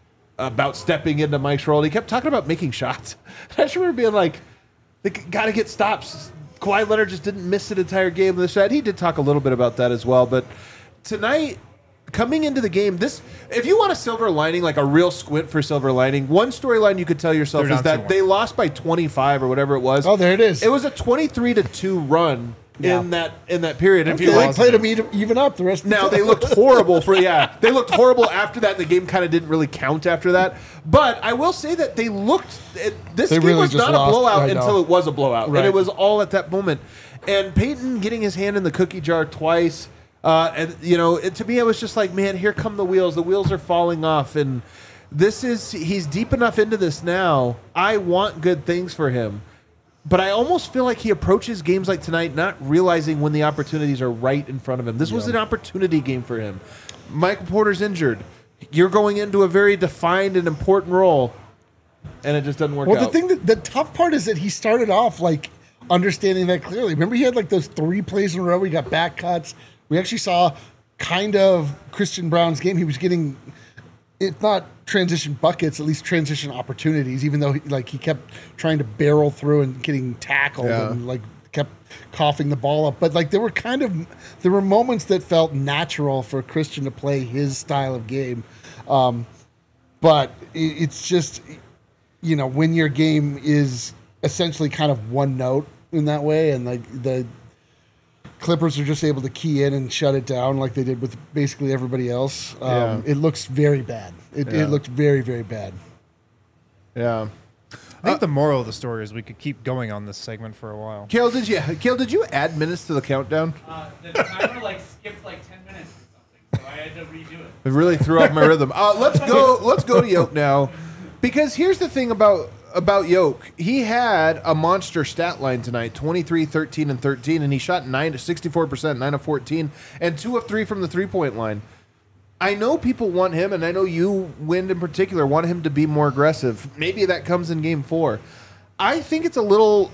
Speaker 1: about stepping into Mike's role. He kept talking about making shots. I just remember being like, they got to get stops. Kawhi Leonard just didn't miss an entire game of the shot. He did talk a little bit about that as well. But tonight, coming into the game, this if you want a silver lining, like a real squint for silver lining, one storyline you could tell yourself
Speaker 2: They're
Speaker 1: is
Speaker 2: down
Speaker 1: that
Speaker 2: two one.
Speaker 1: they lost by twenty-five or whatever it was.
Speaker 3: Oh, there it is.
Speaker 1: It was a twenty-three to two run
Speaker 2: Yeah.
Speaker 1: in that in that period. If
Speaker 3: Okay,
Speaker 1: you
Speaker 3: they
Speaker 1: like,
Speaker 3: played him even, even up the rest. Of the
Speaker 1: now
Speaker 3: time.
Speaker 1: they looked horrible for yeah they looked horrible after that. The game kind of didn't really count after that. But I will say that they looked. It, this
Speaker 3: They
Speaker 1: game
Speaker 3: really
Speaker 1: was
Speaker 3: just
Speaker 1: not
Speaker 3: lost.
Speaker 1: a blowout
Speaker 3: I know.
Speaker 1: until it was a blowout, and
Speaker 3: Right.
Speaker 1: it was all at that moment. And Peyton getting his hand in the cookie jar twice, uh, and you know, it, to me, it was just like, man, here come the wheels. The wheels are falling off, and this is he's deep enough into this now. I want good things for him. But I almost feel like he approaches games like tonight not realizing when the opportunities are right in front of him. This was an opportunity game for him. Michael Porter's injured. You're going into a very defined and important role, and it just doesn't work
Speaker 3: Well,
Speaker 1: out.
Speaker 3: the thing that the tough part is that he started off like understanding that clearly. Remember, he had like those three plays in a row. We got back cuts. We actually saw kind of Christian Brown's game. He was getting, if not transition buckets, at least transition opportunities. Even though he, like he kept trying to barrel through and getting tackled
Speaker 1: Yeah.
Speaker 3: and like kept coughing the ball up. But like there were kind of there were moments that felt natural for Christian to play his style of game. Um, but it, it's just, you know, when your game is essentially kind of one note in that way, and like the Clippers are just able to key in and shut it down like they did with basically everybody else. Um,
Speaker 1: Yeah.
Speaker 3: It looks very bad. It,
Speaker 1: Yeah.
Speaker 3: it looked very, very bad.
Speaker 1: yeah.
Speaker 2: I think the moral of the story is we could keep going on this segment for a while.
Speaker 1: Kale, did you Kale, did you add minutes to the countdown?
Speaker 5: Uh, the timer like skipped like ten minutes or something, so I had to redo it.
Speaker 1: It really threw off my rhythm. Uh, let's go. Let's go to Yoke now, because here's the thing about about Yoke. He had a monster stat line tonight: twenty-three, thirteen, and thirteen, and he shot nine to sixty-four percent, nine of fourteen, and two of three from the three point line. I know people want him, and I know you, Wind in particular, want him to be more aggressive. Maybe that comes in Game Four. I think it's a little.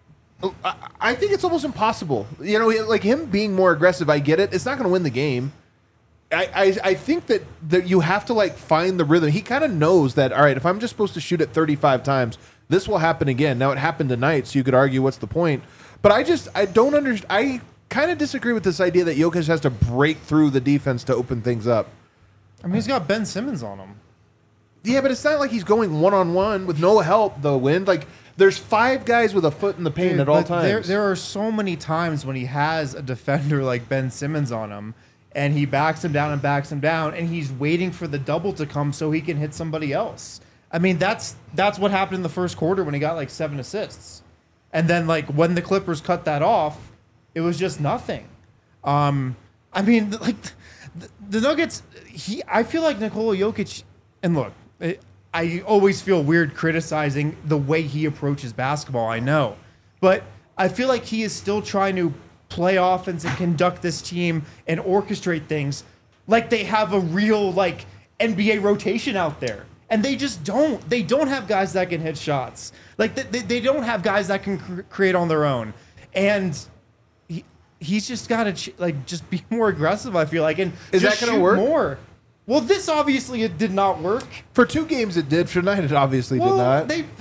Speaker 1: I- I think it's almost impossible. You know, like him being more aggressive. I get it. It's not going to win the game. I, I, I think that, that you have to like find the rhythm. He kind of knows that, all right, if I'm just supposed to shoot it thirty-five times, this will happen again. Now it happened tonight, so you could argue what's the point. But I just I don't understand. I kind of disagree with this idea that Jokic has to break through the defense to open things up.
Speaker 2: I mean, he's got Ben Simmons on him.
Speaker 1: Yeah, but it's not like he's going one on one with no help. The Wind, like there's five guys with a foot in the paint
Speaker 2: Dude,
Speaker 1: at all
Speaker 2: but
Speaker 1: times.
Speaker 2: There, there are so many times when he has a defender like Ben Simmons on him, and he backs him down and backs him down, and he's waiting for the double to come so he can hit somebody else. I mean, that's that's what happened in the first quarter when he got like seven assists, and then like when the Clippers cut that off, it was just nothing. Um, I mean, like the, the Nuggets. He, I feel like Nikola Jokic, and look, it, I always feel weird criticizing the way he approaches basketball. I know, but I feel like he is still trying to play offense and conduct this team and orchestrate things like they have a real like N B A rotation out there. And they just don't. They don't have guys that can hit shots. Like they, they don't have guys that can cr- create on their own. And he, he's just got to ch- like just be more aggressive. I feel like, and
Speaker 1: Is
Speaker 2: just
Speaker 1: that gonna
Speaker 2: shoot
Speaker 1: work?
Speaker 2: more. Well, this obviously it did not work.
Speaker 1: For two games it did. For tonight it obviously
Speaker 2: Well,
Speaker 1: did not.
Speaker 2: they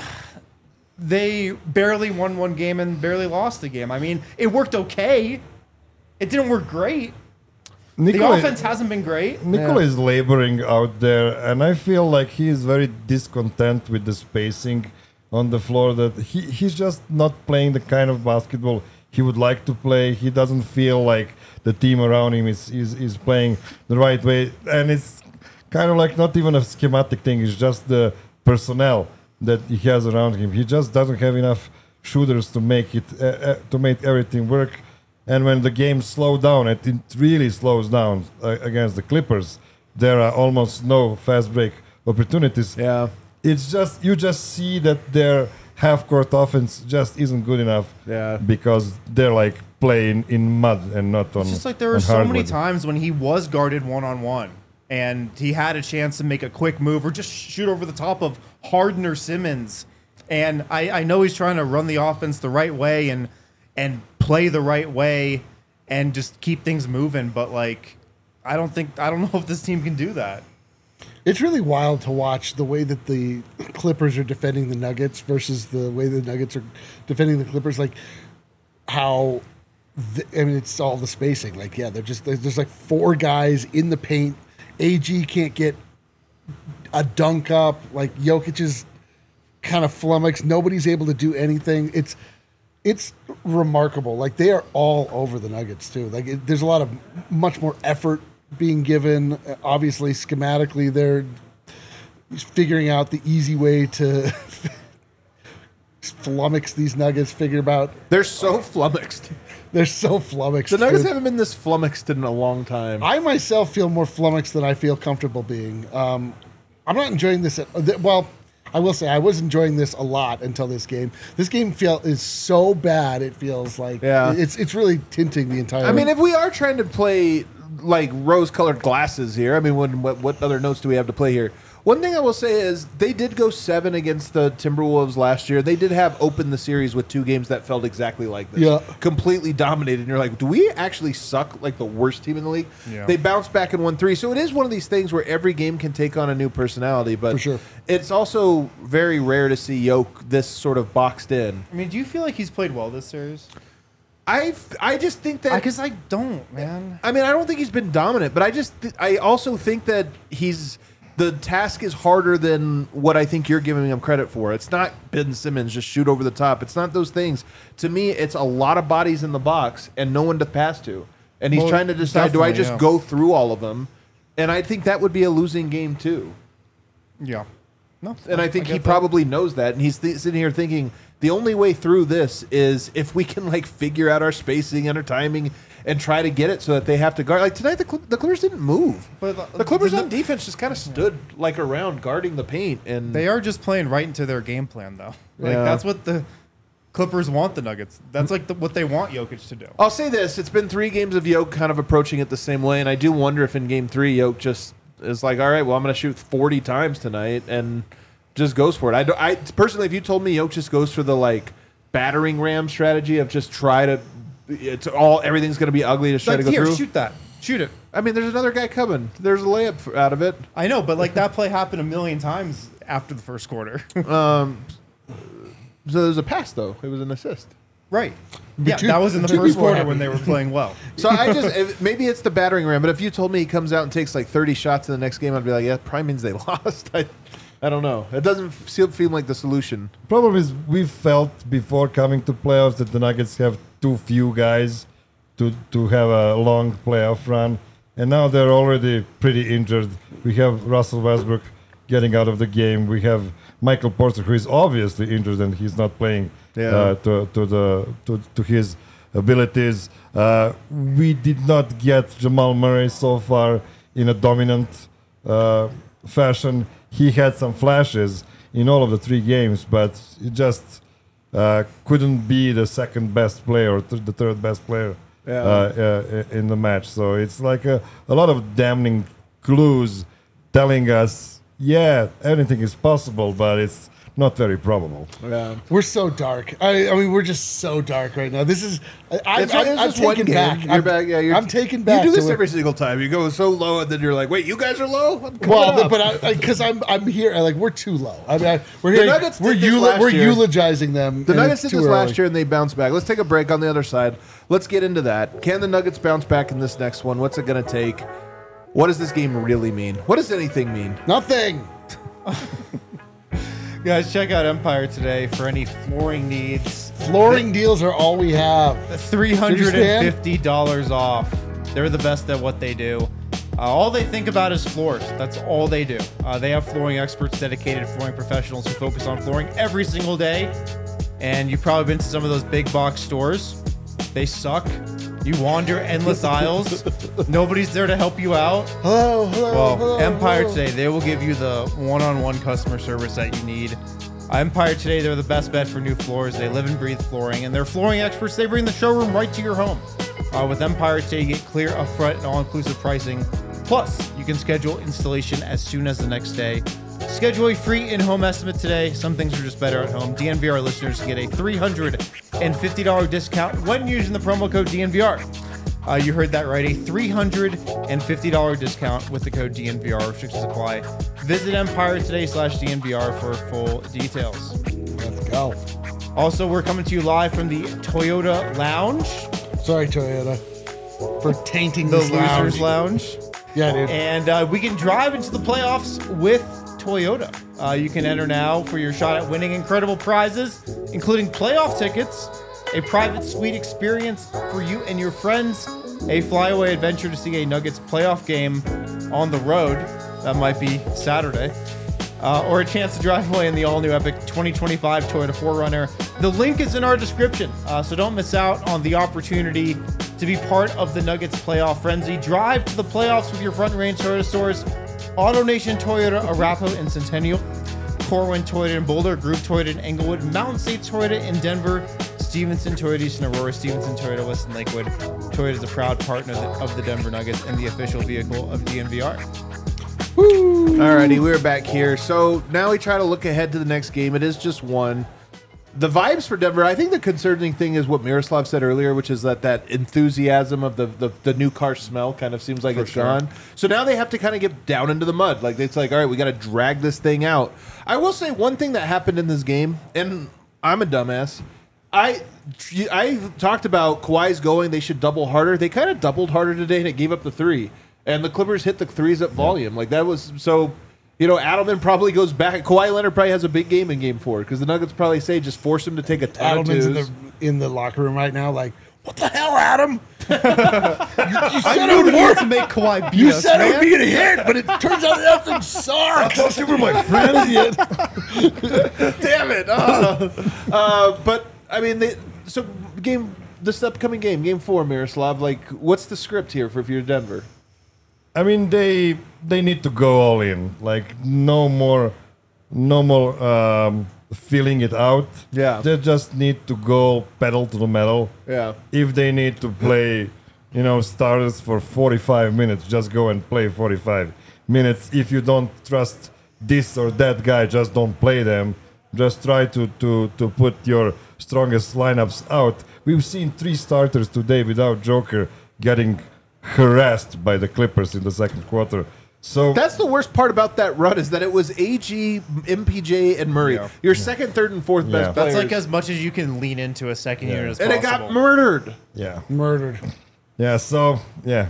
Speaker 2: they barely won one game and barely lost a game. I mean, it worked okay. It didn't work great. The
Speaker 4: Nikola,
Speaker 2: offense hasn't been great.
Speaker 4: Nikola is laboring out there, and I feel like he is very discontent with the spacing on the floor. That he, he's just not playing the kind of basketball he would like to play. He doesn't feel like the team around him is, is, is playing the right way. And it's kind of like not even a schematic thing. It's just the personnel that he has around him. He just doesn't have enough shooters to make it uh, uh, to make everything work. And when the game slows down, and it really slows down uh, against the Clippers, there are almost no fast break opportunities.
Speaker 1: Yeah.
Speaker 4: It's just you just see that their half court offense just isn't good enough.
Speaker 1: Yeah.
Speaker 4: Because they're like playing in mud and not on.
Speaker 2: It's just like there were
Speaker 4: on
Speaker 2: so many
Speaker 4: hardwood.
Speaker 2: times when he was guarded one on one and he had a chance to make a quick move or just shoot over the top of Harden or Simmons. And I, I know he's trying to run the offense the right way and and play the right way and just keep things moving, but like I don't think I don't know if this team can do that.
Speaker 3: It's really wild to watch the way that the Clippers are defending the Nuggets versus the way the Nuggets are defending the Clippers. Like how, the, I mean, it's all the spacing. Like, yeah, they're just there's, there's like four guys in the paint. A G can't get a dunk up. Like Jokic is kind of flummoxed. Nobody's able to do anything. It's it's remarkable. Like they are all over the Nuggets too. Like it, there's a lot of much more effort being given. Obviously, schematically, they're figuring out the easy way to flummox these Nuggets. Figure about
Speaker 1: They're so flummoxed.
Speaker 3: they're so flummoxed.
Speaker 1: The Nuggets
Speaker 3: dude.
Speaker 1: haven't been this flummoxed in a long time.
Speaker 3: I myself feel more flummoxed than I feel comfortable being. Um, I'm not enjoying this. At, well, I will say I was enjoying this a lot until this game. This game feel is so bad. It feels like
Speaker 1: Yeah.
Speaker 3: it's it's really tinting the entire.
Speaker 1: I mean, if we are trying to play like rose-colored glasses here, I mean, when, what, what other notes do we have to play here? One thing I will say is they did go seven against the Timberwolves last year. They did have opened the series with two games that felt exactly like this.
Speaker 3: Yeah.
Speaker 1: Completely dominated. And you're like, do we actually suck like the worst team in the league?
Speaker 2: Yeah.
Speaker 1: They bounced back and won three. So it is one of these things where every game can take on a new personality. But
Speaker 3: For sure.
Speaker 1: it's also very rare to see Yoke this sort of boxed in.
Speaker 2: I mean, do you feel like he's played well this series?
Speaker 1: I I just think that
Speaker 2: Because I, I don't, man.
Speaker 1: I mean, I don't think he's been dominant, but I just th- I also think that he's the task is harder than what I think you're giving him credit for. It's not Ben Simmons just shoot over the top. It's not those things. To me, it's a lot of bodies in the box and no one to pass to. And he's
Speaker 2: Well,
Speaker 1: trying to decide, do I
Speaker 2: definitely,
Speaker 1: just
Speaker 2: yeah.
Speaker 1: go through all of them? And I think that would be a losing game too.
Speaker 2: Yeah. No.
Speaker 1: And I think
Speaker 2: get
Speaker 1: he
Speaker 2: that.
Speaker 1: probably knows that. And he's th- sitting here thinking the only way through this is if we can like figure out our spacing and our timing and try to get it so that they have to guard. Like tonight, the, Cl- the Clippers didn't move.
Speaker 2: But the-
Speaker 1: the Clippers
Speaker 2: the-
Speaker 1: on defense just kind of stood like around guarding the paint. And
Speaker 2: They are just playing right into their game plan, though. Like
Speaker 1: Yeah.
Speaker 2: that's what the Clippers want the Nuggets. That's like the, what they want Jokic to do.
Speaker 1: I'll say this: it's been three games of Yoke kind of approaching it the same way, and I do wonder if in Game Three Yoke just is like, all right, well, I'm going to shoot forty times tonight and just goes for it. I, do, I personally, if you told me Yoke just goes for the like battering ram strategy of just try to, it's all everything's going to be ugly to try
Speaker 2: Like,
Speaker 1: to go
Speaker 2: here,
Speaker 1: through.
Speaker 2: shoot that. Shoot it.
Speaker 1: I mean, there's another guy coming. There's a layup f- out of it.
Speaker 2: I know, but like that play happened a million times after the first quarter.
Speaker 1: So there's a pass though. It was an assist.
Speaker 2: right. Yeah,
Speaker 3: two-
Speaker 2: that was in the
Speaker 3: two
Speaker 2: first
Speaker 3: people are
Speaker 2: quarter
Speaker 3: happy.
Speaker 2: when they were playing well.
Speaker 1: So I just if, maybe it's the battering ram, but if you told me he comes out and takes like thirty shots in the next game, I'd be like, yeah, probably means they lost. I, I don't know. It doesn't feel, feel like the solution.
Speaker 4: Problem is, we felt before coming to playoffs that the Nuggets have too few guys to to have a long playoff run, and now they're already pretty injured. We have Russell Westbrook getting out of the game. We have Michael Porter, who is obviously injured and he's not playing
Speaker 1: Yeah.
Speaker 4: uh, to to the to, to his abilities. Uh, we did not get Jamal Murray so far in a dominant uh, fashion. he had some flashes in all of the three games, but he just uh, couldn't be the second best player or th- the third best player
Speaker 1: Yeah.
Speaker 4: uh, uh, in the match. So it's like a, a lot of damning clues telling us, yeah, anything is possible, but it's not very probable.
Speaker 1: Yeah.
Speaker 3: We're so dark. I, I mean, we're just so dark right now. This is. I, I,
Speaker 1: It's,
Speaker 3: I,
Speaker 1: it's
Speaker 3: I'm
Speaker 1: just one
Speaker 3: taken
Speaker 1: game.
Speaker 3: back.
Speaker 1: You're
Speaker 3: I'm,
Speaker 1: back. Yeah, you're,
Speaker 3: I'm taken back.
Speaker 1: You do
Speaker 3: to
Speaker 1: this
Speaker 3: it.
Speaker 1: every single time. You go so low, and then you're like, "Wait, you guys are low." I'm coming
Speaker 3: Well,
Speaker 1: up.
Speaker 3: but because I'm I'm here, like we're too low. I mean, I, we're
Speaker 1: The
Speaker 3: here,
Speaker 1: Nuggets
Speaker 3: we're
Speaker 1: did this
Speaker 3: eula-
Speaker 1: last
Speaker 3: we're
Speaker 1: year.
Speaker 3: eulogizing them.
Speaker 1: The
Speaker 3: and
Speaker 1: Nuggets
Speaker 3: it's
Speaker 1: did
Speaker 3: too
Speaker 1: this
Speaker 3: early.
Speaker 1: last year, and they bounced back. Let's take a break on the other side. Let's get into that. Can the Nuggets bounce back in this next one? What's it going to take? What does this game really mean? What does anything mean?
Speaker 3: Nothing.
Speaker 2: Guys, check out Empire today for any flooring needs.
Speaker 3: Flooring deals are all we have.
Speaker 2: three hundred fifty dollars off. They're the best at what they do. Uh, all they think about is floors. That's all they do. Uh, they have flooring experts, dedicated flooring professionals who focus on flooring every single day. And you've probably been to some of those big box stores. They suck. You wander endless aisles. Nobody's there to help you out.
Speaker 3: Hello, hello,
Speaker 2: Well,
Speaker 3: hello,
Speaker 2: Empire
Speaker 3: hello.
Speaker 2: Today, they will give you the one-on-one customer service that you need. Uh, Empire Today, they're the best bet for new floors. They live and breathe flooring, and they're flooring experts. They bring the showroom right to your home. Uh, with Empire Today, you get clear, upfront, and all-inclusive pricing. Plus, you can schedule installation as soon as the next day. Schedule a free in-home estimate today. Some things are just better at home. D N V R listeners get a three hundred fifty dollars discount when using the promo code D N V R. Uh, you heard that right, a three hundred fifty dollars discount with the code D N V R. Restrictions apply. Visit Empire Today slash D N V R for full details.
Speaker 3: Let's go.
Speaker 2: Also, we're coming to you live from the Toyota Lounge,
Speaker 3: Sorry, Toyota, for tainting
Speaker 2: the
Speaker 3: this
Speaker 2: Losers
Speaker 3: lounge.
Speaker 2: Lounge.
Speaker 3: Yeah, dude.
Speaker 2: And uh, we can drive into the playoffs with Toyota. Uh, you can enter now for your shot at winning incredible prizes, including playoff tickets, a private suite experience for you and your friends, a flyaway adventure to see a Nuggets playoff game on the road. That might be Saturday. Uh, or a chance to drive away in the all-new epic twenty twenty-five Toyota four runner. The link is in our description, uh, so don't miss out on the opportunity to be part of the Nuggets playoff frenzy. Drive to the playoffs with your Front Range Toyota stores, AutoNation Toyota, Arapahoe and Centennial, Corwin Toyota in Boulder, Group Toyota in Englewood, Mountain State Toyota in Denver, Stevenson Toyota East in Aurora, Stevenson Toyota West in Lakewood. Toyota is a proud partner of the Denver Nuggets and the official vehicle of D N V R.
Speaker 1: Alrighty, we're back here. So now we try to look ahead to the next game. It is just one. The vibes for Denver, I think the concerning thing is what Miroslav said earlier, which is that that enthusiasm of the, the, the new car smell kind of seems like it's gone. So now they have to kind of get down into the mud. Like, it's like, all right, we got to drag this thing out. I will say one thing that happened in this game, and I'm a dumbass. I I talked about Kawhi's going, they should double harder. They kind of doubled harder today, and it gave up the three. And the Clippers hit the threes at volume. Like, that was so... You know, Adelman probably goes back. Kawhi Leonard probably has a big game in game four because the Nuggets probably say just force him to take a ton of
Speaker 3: Adelman's in
Speaker 1: twos.
Speaker 3: the in the locker room right now, like, what the hell, Adam? you, you said
Speaker 2: I
Speaker 3: it
Speaker 2: knew
Speaker 3: would
Speaker 2: we
Speaker 3: work.
Speaker 2: to make Kawhi beat
Speaker 3: You
Speaker 2: us,
Speaker 3: said it
Speaker 2: man.
Speaker 3: would be a hit, but it turns out that thing sucks. I thought you were my friend.
Speaker 1: Damn it! Uh, uh, but I mean, they, so game this upcoming game, game four, Miroslav. Like, what's the script here for if you're Denver?
Speaker 4: I mean, they they need to go all in. Like no more, no more um, feeling it out.
Speaker 1: Yeah.
Speaker 4: They just need to go pedal to the metal.
Speaker 1: Yeah.
Speaker 4: If they need to play, you know, starters for forty-five minutes, just go and play forty-five minutes. If you don't trust this or that guy, just don't play them. Just try to to to put your strongest lineups out. We've seen three starters today without Joker getting harassed by the Clippers in the second quarter. So
Speaker 1: That's the worst part about that run is that it was A G, M P J, and Murray.
Speaker 2: Yeah.
Speaker 1: Your second, third, and fourth
Speaker 4: Yeah.
Speaker 1: best
Speaker 2: That's
Speaker 1: players.
Speaker 2: like as much as you can lean into a second
Speaker 4: Yeah.
Speaker 2: unit as
Speaker 1: and it
Speaker 2: possible.
Speaker 1: got murdered.
Speaker 4: yeah,
Speaker 3: Murdered.
Speaker 4: yeah. So yeah,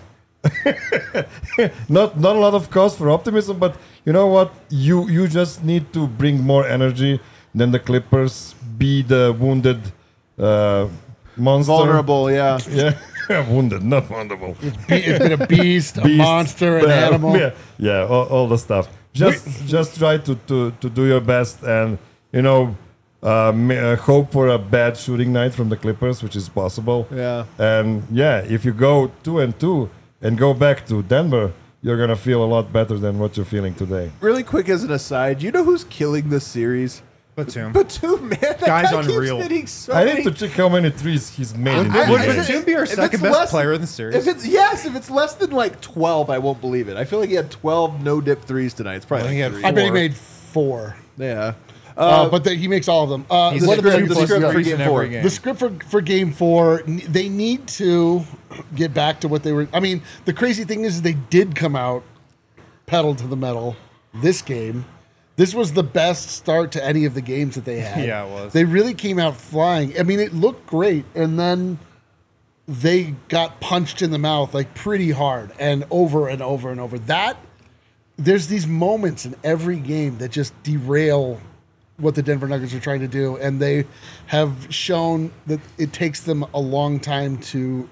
Speaker 4: not not a lot of cause for optimism, but you know what? You you just need to bring more energy than the Clippers. Be the wounded uh, monster.
Speaker 1: Vulnerable, yeah.
Speaker 4: Yeah, wounded, not vulnerable.
Speaker 3: Be- it's been a beast, a
Speaker 4: Beast,
Speaker 3: monster, an
Speaker 4: uh,
Speaker 3: animal.
Speaker 4: Yeah, yeah, all, all the stuff. Just just try to, to, to do your best and, you know, uh, ma- uh, hope for a bad shooting night from the Clippers, which is possible.
Speaker 1: Yeah.
Speaker 4: And yeah, if you go two and two and go back to Denver, you're gonna feel a lot better than what you're feeling today.
Speaker 1: Really quick as an aside, you know who's killing this series?
Speaker 2: Batum.
Speaker 1: Batum, man. That
Speaker 2: Guy's
Speaker 1: guy keeps
Speaker 2: unreal.
Speaker 1: hitting so
Speaker 4: I
Speaker 1: many-
Speaker 4: need to check how many threes he's made. in
Speaker 1: I-
Speaker 4: the
Speaker 2: Would
Speaker 1: I-
Speaker 4: game.
Speaker 2: Batum be our
Speaker 1: if
Speaker 2: second
Speaker 1: it's
Speaker 2: best
Speaker 1: less-
Speaker 2: player in the series?
Speaker 1: If it's yes, if it's less than like twelve, I won't believe it. I feel like he had twelve no dip threes tonight. It's probably
Speaker 2: I think he
Speaker 1: like
Speaker 2: had
Speaker 1: three.
Speaker 3: I bet he
Speaker 2: Four.
Speaker 3: made four.
Speaker 1: Yeah.
Speaker 3: Uh,
Speaker 1: Uh,
Speaker 3: but the, he makes all of them. Uh,
Speaker 2: He's
Speaker 3: what
Speaker 2: hit
Speaker 3: are the,
Speaker 2: two
Speaker 1: the
Speaker 2: plus
Speaker 1: script for
Speaker 2: threes
Speaker 1: game
Speaker 2: in every
Speaker 1: four.
Speaker 2: game.
Speaker 3: the script for, for game four, n- they need to get back to what they were. I mean, the crazy thing is they did come out pedal to the metal this game. This was the best start to any of the games that they had.
Speaker 2: Yeah, it was.
Speaker 3: They really came out flying. I mean, it looked great. And then they got punched in the mouth like pretty hard and over and over and over. That, there's these moments in every game that just derail what the Denver Nuggets are trying to do, and they have shown that it takes them a long time to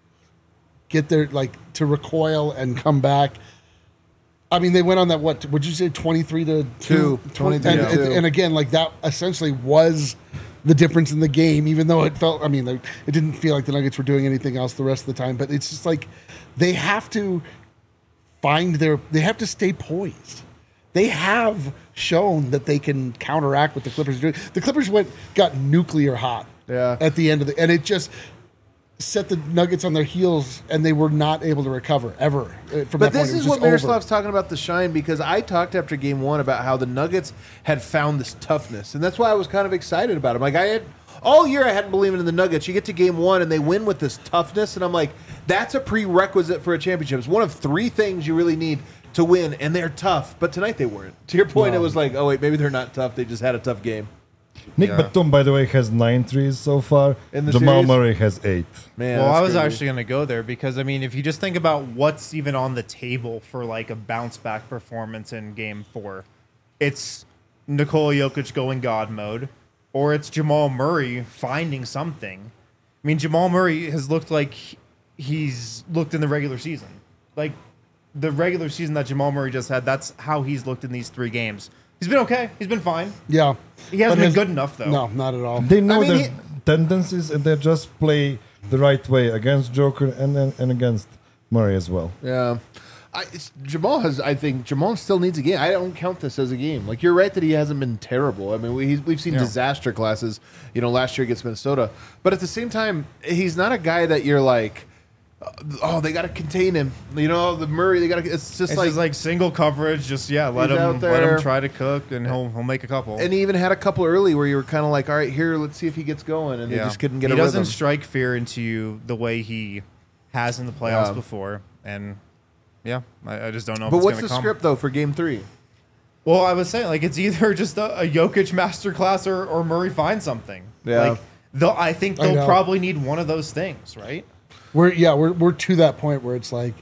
Speaker 3: get their like to recoil and come back. I mean, they went on that what would you say twenty-three to
Speaker 1: Two.
Speaker 3: two,
Speaker 1: twenty-three
Speaker 3: and,
Speaker 1: to two.
Speaker 3: and again, like that essentially was the difference in the game, even though it felt. I mean, like, it didn't feel like the Nuggets were doing anything else the rest of the time. But it's just like they have to find their. They have to stay poised. They have shown that they can counteract what the Clippers are doing. The Clippers went got nuclear hot
Speaker 1: Yeah.
Speaker 3: at the end of the, and it just set the Nuggets on their heels, and they were not able to recover ever. uh, From
Speaker 1: But
Speaker 3: that point,
Speaker 1: this
Speaker 3: It was
Speaker 1: is what
Speaker 3: just over.
Speaker 1: Miroslav's talking about the shine, because I talked after game one about how the Nuggets had found this toughness, and that's why I was kind of excited about them. Like I had all year, I hadn't believed in the Nuggets. You get to game one and they win with this toughness, and I'm like, that's a prerequisite for a championship. It's one of three things you really need to win, and they're tough. But tonight they weren't. To your point,
Speaker 3: No.
Speaker 1: it was like, oh wait, maybe they're not tough. They just had a tough game.
Speaker 4: Nick
Speaker 2: Yeah.
Speaker 4: Batum, by the way, has nine threes so far.
Speaker 1: In the
Speaker 4: Jamal
Speaker 1: series?
Speaker 4: Murray has eight.
Speaker 1: Man,
Speaker 2: Well,
Speaker 1: that's
Speaker 2: I was
Speaker 1: crazy.
Speaker 2: actually going to go there because I mean, if you just think about what's even on the table for like a bounce back performance in Game Four, it's Nikola Jokic going God mode, or it's Jamal Murray finding something. I mean, Jamal Murray has looked like he's looked in the regular season, like the regular season that Jamal Murray just had. That's how he's looked in these three games. He's been okay. He's been fine.
Speaker 3: Yeah,
Speaker 2: He hasn't
Speaker 3: But
Speaker 2: been
Speaker 3: his-
Speaker 2: good enough though.
Speaker 3: No, not at all.
Speaker 4: They know
Speaker 1: I mean,
Speaker 4: their tendencies and they just play the right way against Joker and and, and against Murray as well.
Speaker 1: Yeah. I, it's, Jamal has, I think, Jamal still needs a game. I don't count this as a game. Like, you're right that he hasn't been terrible. I mean, we, he's, we've seen
Speaker 2: Yeah.
Speaker 1: disaster classes, you know, last year against Minnesota. But at the same time, he's not a guy that you're like, oh, they got to contain him. You know, the Murray, they got to, it's just
Speaker 2: It's
Speaker 1: like,
Speaker 2: just like single coverage. Just yeah, let
Speaker 1: He's
Speaker 2: him
Speaker 1: out
Speaker 2: let
Speaker 1: there.
Speaker 2: him try to cook, and he'll he'll make a couple.
Speaker 1: and he even had a couple early where you were kind of like, all right, here, let's see if he gets going. And they just couldn't get
Speaker 2: he
Speaker 1: a
Speaker 2: doesn't
Speaker 1: rhythm.
Speaker 2: strike fear into you the way he has in the playoffs
Speaker 1: Yeah.
Speaker 2: before, and yeah, I, I just don't know.
Speaker 1: But
Speaker 2: if it's
Speaker 1: what's
Speaker 2: gonna
Speaker 1: the
Speaker 2: come.
Speaker 1: script, though, for game three?
Speaker 2: Well, I was saying like it's either just a, a Jokic masterclass or, or Murray finds something.
Speaker 1: Yeah.
Speaker 2: Like they'll, I think
Speaker 3: I
Speaker 2: they'll
Speaker 3: know.
Speaker 2: probably need one of those things, right?
Speaker 3: We're yeah, we're we're to that point where it's like,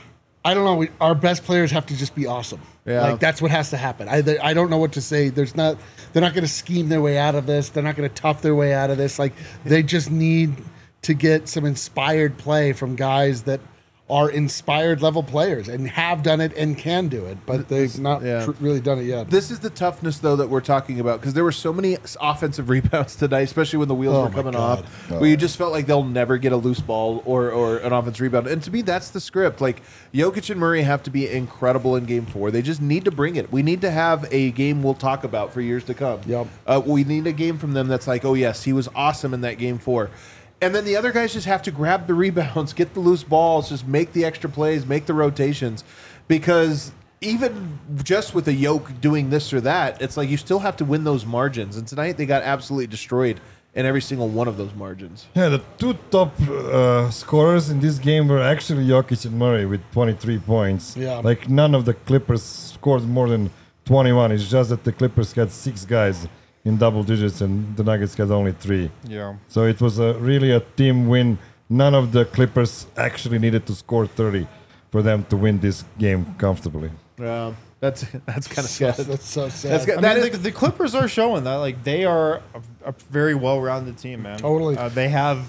Speaker 3: I don't know. We, our best players have to just be awesome.
Speaker 1: Yeah.
Speaker 3: Like that's what has to happen. I they- I don't know what to say. There's not. They're not going to scheme their way out of this. They're not going to tough their way out of this. Like they just need to get some inspired play from guys that are inspired level players and have done it and can do it, but they've not
Speaker 1: yeah.
Speaker 3: tr- really done it yet.
Speaker 1: This is the toughness, though, that we're talking about, because there were so many s- offensive rebounds tonight, especially when the wheels
Speaker 3: Oh
Speaker 1: were
Speaker 3: my
Speaker 1: coming
Speaker 3: God.
Speaker 1: off, where you just felt like they'll never get a loose ball or, or an offensive rebound. And to me, that's the script. Like, Jokic and Murray have to be incredible in game four. They just need to bring it. We need to have a game we'll talk about for years to come.
Speaker 3: Yep.
Speaker 1: Uh, we need a game from them that's like, oh, yes, he was awesome in that game four. And then the other guys just have to grab the rebounds, get the loose balls, just make the extra plays, make the rotations. Because even just with a yoke doing this or that, it's like you still have to win those margins. And tonight they got absolutely destroyed in every single one of those margins.
Speaker 4: Yeah, the two top uh, scorers in this game were actually Jokic and Murray with twenty-three points.
Speaker 3: Yeah.
Speaker 4: Like none of the Clippers scored more than twenty-one. It's just that the Clippers had six guys in double digits and the Nuggets had only three.
Speaker 2: Yeah.
Speaker 4: So it was a, really a team win. None of the Clippers actually needed to score thirty for them to win this game comfortably.
Speaker 1: Yeah, that's that's kind of
Speaker 3: So-
Speaker 1: sad.
Speaker 3: that's so sad.
Speaker 1: That's good.
Speaker 2: I
Speaker 1: That
Speaker 2: mean,
Speaker 1: is-
Speaker 2: the, the Clippers are showing that like they are a, a very well-rounded team, man.
Speaker 3: Totally.
Speaker 2: Uh, they have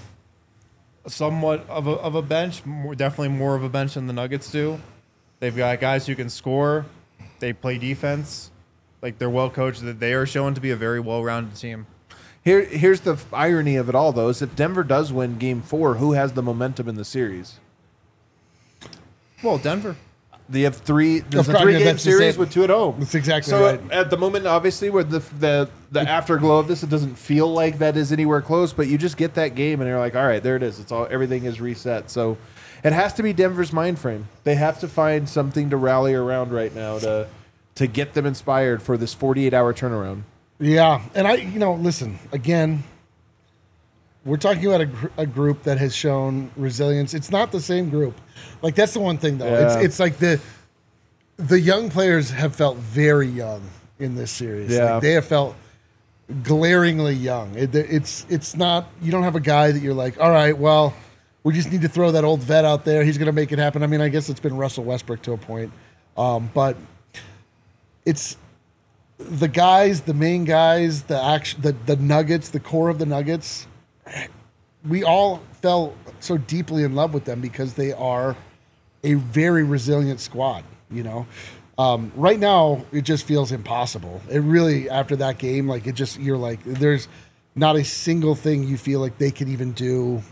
Speaker 2: somewhat of a, of a bench, more, definitely more of a bench than the Nuggets do. They've got guys who can score. They play defense. Like they're well coached. That they are shown to be a very well-rounded team.
Speaker 1: Here, here's the f- irony of it all, though: is if Denver does win Game Four, who has the momentum in the series?
Speaker 2: Well, Denver.
Speaker 1: They have three. There's a
Speaker 3: course,
Speaker 1: three
Speaker 3: yeah,
Speaker 1: game
Speaker 3: that's the
Speaker 1: series
Speaker 3: same-
Speaker 1: with two at home.
Speaker 3: That's exactly
Speaker 1: so
Speaker 3: right.
Speaker 1: at the moment, obviously, where the the the afterglow of this, it doesn't feel like that is anywhere close. But you just get that game, and you're like, all right, there it is. It's all everything is reset. So it has to be Denver's mind frame. They have to find something to rally around right now to to get them inspired for this forty-eight hour turnaround.
Speaker 3: Yeah, and I, you know, listen again. We're talking about a, gr- a group that has shown resilience. It's not the same group. Like that's the one thing though.
Speaker 1: Yeah.
Speaker 3: It's it's like the the young players have felt very young in this series.
Speaker 1: Yeah.
Speaker 3: Like, they have felt glaringly young. It, it's it's not. You don't have a guy that you're like, all right, well, we just need to throw that old vet out there. He's going to make it happen. I mean, I guess it's been Russell Westbrook to a point, um, but it's the guys, the main guys, the action, the the Nuggets, the core of the Nuggets. We all fell so deeply in love with them because they are a very resilient squad. You know, um, right now it just feels impossible. It really, after that game, like it just you're like, there's not a single thing you feel like they could even do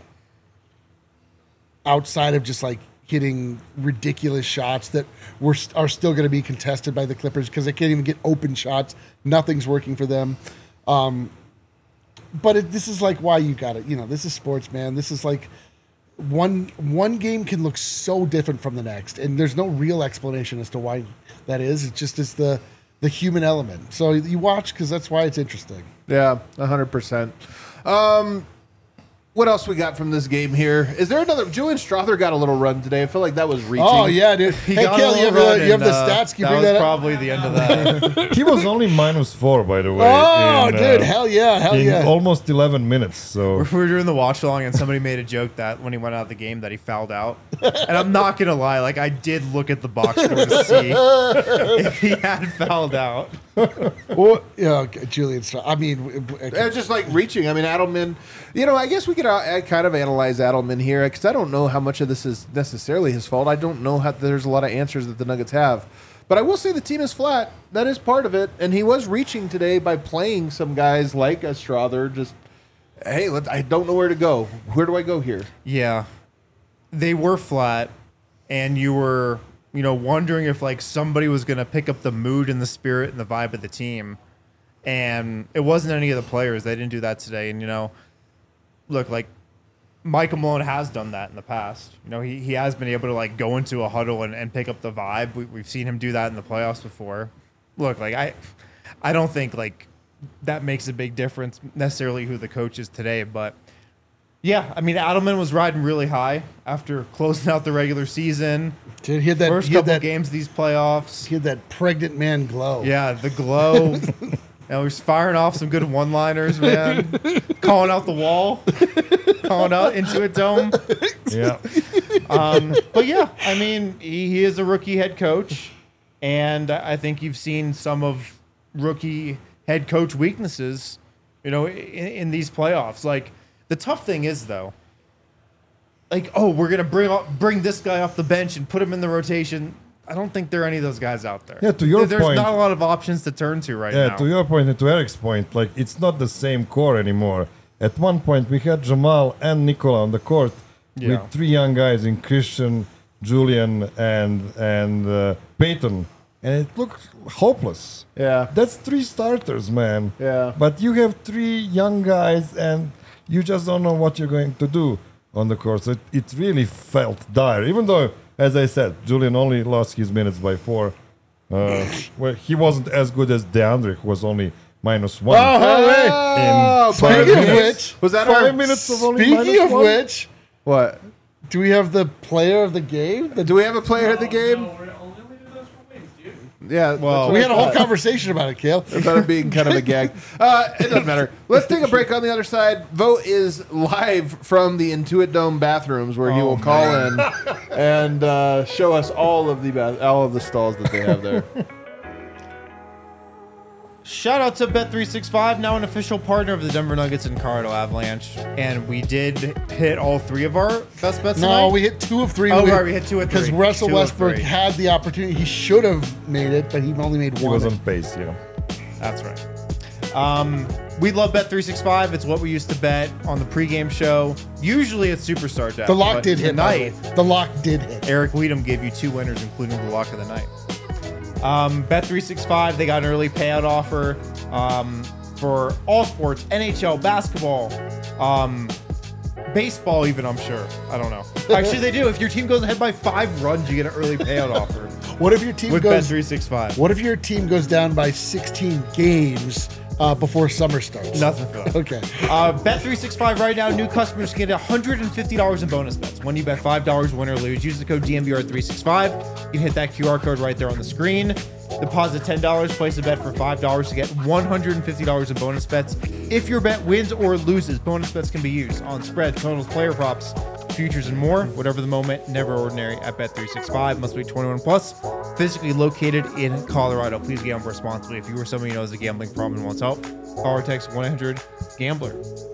Speaker 3: outside of just like hitting ridiculous shots that were are still going to be contested by the Clippers because they can't even get open shots. Nothing's working for them. Um, but it, this is like why you got it. You know, this is sports, man. This is like one one game can look so different from the next, and there's no real explanation as to why that is. It's just it's the the human element. So you watch because that's why it's interesting.
Speaker 1: Yeah, one hundred percent. Um, what else we got from this game here? Is there another? Julian Strother got a little run today. I feel like that was reaching.
Speaker 3: Oh yeah, dude.
Speaker 2: He
Speaker 3: Hey,
Speaker 2: got a
Speaker 3: Kale, you have,
Speaker 2: little
Speaker 3: the,
Speaker 2: run
Speaker 3: you have
Speaker 2: and,
Speaker 3: the
Speaker 2: uh,
Speaker 3: stats? Can you
Speaker 2: that
Speaker 3: bring
Speaker 2: was
Speaker 3: that up?
Speaker 2: probably the end of that.
Speaker 4: He was only minus four, by the way.
Speaker 3: Oh,
Speaker 4: in,
Speaker 3: dude,
Speaker 4: uh,
Speaker 3: hell yeah, hell
Speaker 4: in
Speaker 3: yeah.
Speaker 4: almost eleven minutes. So
Speaker 2: We were doing the watch along, and somebody made a joke that when he went out of the game that he fouled out. And I'm not gonna lie, like I did look at the box score to see if he had fouled out.
Speaker 3: Well, yeah, okay, Julian. Stra- I mean, w- w-
Speaker 1: It's just like reaching. I mean, Adelman, you know, I guess we could uh, kind of analyze Adelman here because I don't know how much of this is necessarily his fault. I don't know how there's a lot of answers that the Nuggets have. But I will say the team is flat. That is part of it. And he was reaching today by playing some guys like a Strother. Just, hey, let, I don't know where to go. Where do I go here?
Speaker 2: Yeah, they were flat, and you were, you know, wondering if like somebody was gonna pick up the mood and the spirit and the vibe of the team, and it wasn't any of the players. They didn't do that today. And you know, look, like Michael Malone has done that in the past. You know, he, he has been able to like go into a huddle and, and pick up the vibe. We, we've seen him do that in the playoffs before. Look, like I, I don't think like that makes a big difference necessarily who the coach is today, but yeah, I mean Adelman was riding really high after closing out the regular season.
Speaker 3: dude, he had that.
Speaker 2: First
Speaker 3: he had
Speaker 2: couple
Speaker 3: that,
Speaker 2: games of these playoffs.
Speaker 3: He had that pregnant man glow.
Speaker 2: Yeah, the glow. And he was firing off some good one-liners, man. Calling out the wall. Calling out into a dome.
Speaker 4: yeah,
Speaker 2: Um, but yeah, I mean, he, he is a rookie head coach, and I think you've seen some of rookie head coach weaknesses, you know, in, in these playoffs. Like the tough thing is though, like oh, we're gonna bring up, bring this guy off the bench and put him in the rotation. I don't think there are any of those guys out there.
Speaker 4: Yeah, to your
Speaker 2: There's
Speaker 4: point-
Speaker 2: not a lot of options to turn to right
Speaker 4: yeah.
Speaker 2: now.
Speaker 4: To your point and to Eric's point, like it's not the same core anymore. At one point, we had Jamal and Nikola on the court
Speaker 2: Yeah.
Speaker 4: with three young guys in Christian, Julian, and and uh, Peyton, and it looked hopeless.
Speaker 1: Yeah.
Speaker 4: That's three starters, man.
Speaker 1: Yeah.
Speaker 4: But you have three young guys, and you just don't know what you're going to do on the court. So it, it really felt dire. Even though, as I said, Julian only lost his minutes by four. Uh, well, he wasn't as good as DeAndre, who was only minus one.
Speaker 3: Oh, hey.
Speaker 1: Oh,
Speaker 4: In five
Speaker 3: Speaking of
Speaker 4: minutes.
Speaker 3: which,
Speaker 1: was that
Speaker 4: Five
Speaker 1: our
Speaker 4: minutes of only
Speaker 3: speaking
Speaker 4: minus
Speaker 3: of
Speaker 4: one?
Speaker 3: which,
Speaker 1: what?
Speaker 3: do we have the player of the game? The,
Speaker 1: Do we have a player at the game?
Speaker 5: No, we're only we do those for wins, dude.
Speaker 1: Yeah.
Speaker 2: Well,
Speaker 1: that's
Speaker 3: we
Speaker 1: what
Speaker 3: had a
Speaker 1: I
Speaker 3: whole
Speaker 1: thought.
Speaker 3: conversation about it, Kale.
Speaker 1: About it being kind of a gag. Uh, it doesn't matter. Let's take a break on the other side. Vote is live from the Intuit Dome bathrooms where he
Speaker 2: Oh,
Speaker 1: will call in and uh, show us all of the bath- all of the stalls that they have there.
Speaker 2: Shout out to Bet three sixty-five, now an official partner of the Denver Nuggets and Colorado Avalanche. And we did hit all three of our best bets
Speaker 3: No,
Speaker 2: tonight.
Speaker 3: we hit two of three.
Speaker 2: Oh, right, we hit two of
Speaker 3: Because
Speaker 2: three.
Speaker 3: Russell
Speaker 2: Two of
Speaker 3: Westbrook
Speaker 2: three.
Speaker 3: had the opportunity. He should have made it, but he only made
Speaker 4: He
Speaker 3: one.
Speaker 4: was on pace, yeah.
Speaker 2: That's right. Um, We love Bet three sixty-five. It's what we used to bet on the pregame show. Usually it's Superstar Deck.
Speaker 3: The lock
Speaker 2: but
Speaker 3: did hit. by the
Speaker 2: tonight.
Speaker 3: way. The lock did hit.
Speaker 2: Eric Weedham gave you two winners, including the lock of the night. Um, Bet three sixty-five, they got an early payout offer um, for all sports, N H L, basketball, um, baseball even, I'm sure. I don't know. Actually, they do. If your team goes ahead by five runs, you get an early payout offer
Speaker 3: What if your team
Speaker 2: with Bet
Speaker 3: goes?
Speaker 2: three sixty-five.
Speaker 3: What if your team goes down by sixteen games uh, before summer starts?
Speaker 2: Nothing for that.
Speaker 3: Okay.
Speaker 2: Uh, Bet three sixty-five right now, new customers can get one hundred fifty dollars in bonus bets. When you bet five dollars, win or lose, use the code D M V R three sixty-five. You can hit that Q R code right there on the screen. Deposit ten dollars, place a bet for five dollars to get one hundred fifty dollars in bonus bets. If your bet wins or loses, bonus bets can be used on spreads, totals, player props, futures, and more. Whatever the moment, never ordinary at Bet three sixty-five. Must be twenty-one plus, physically located in Colorado. Please gamble responsibly. If you or somebody you know has a gambling problem and wants help, call or text one eight hundred gambler.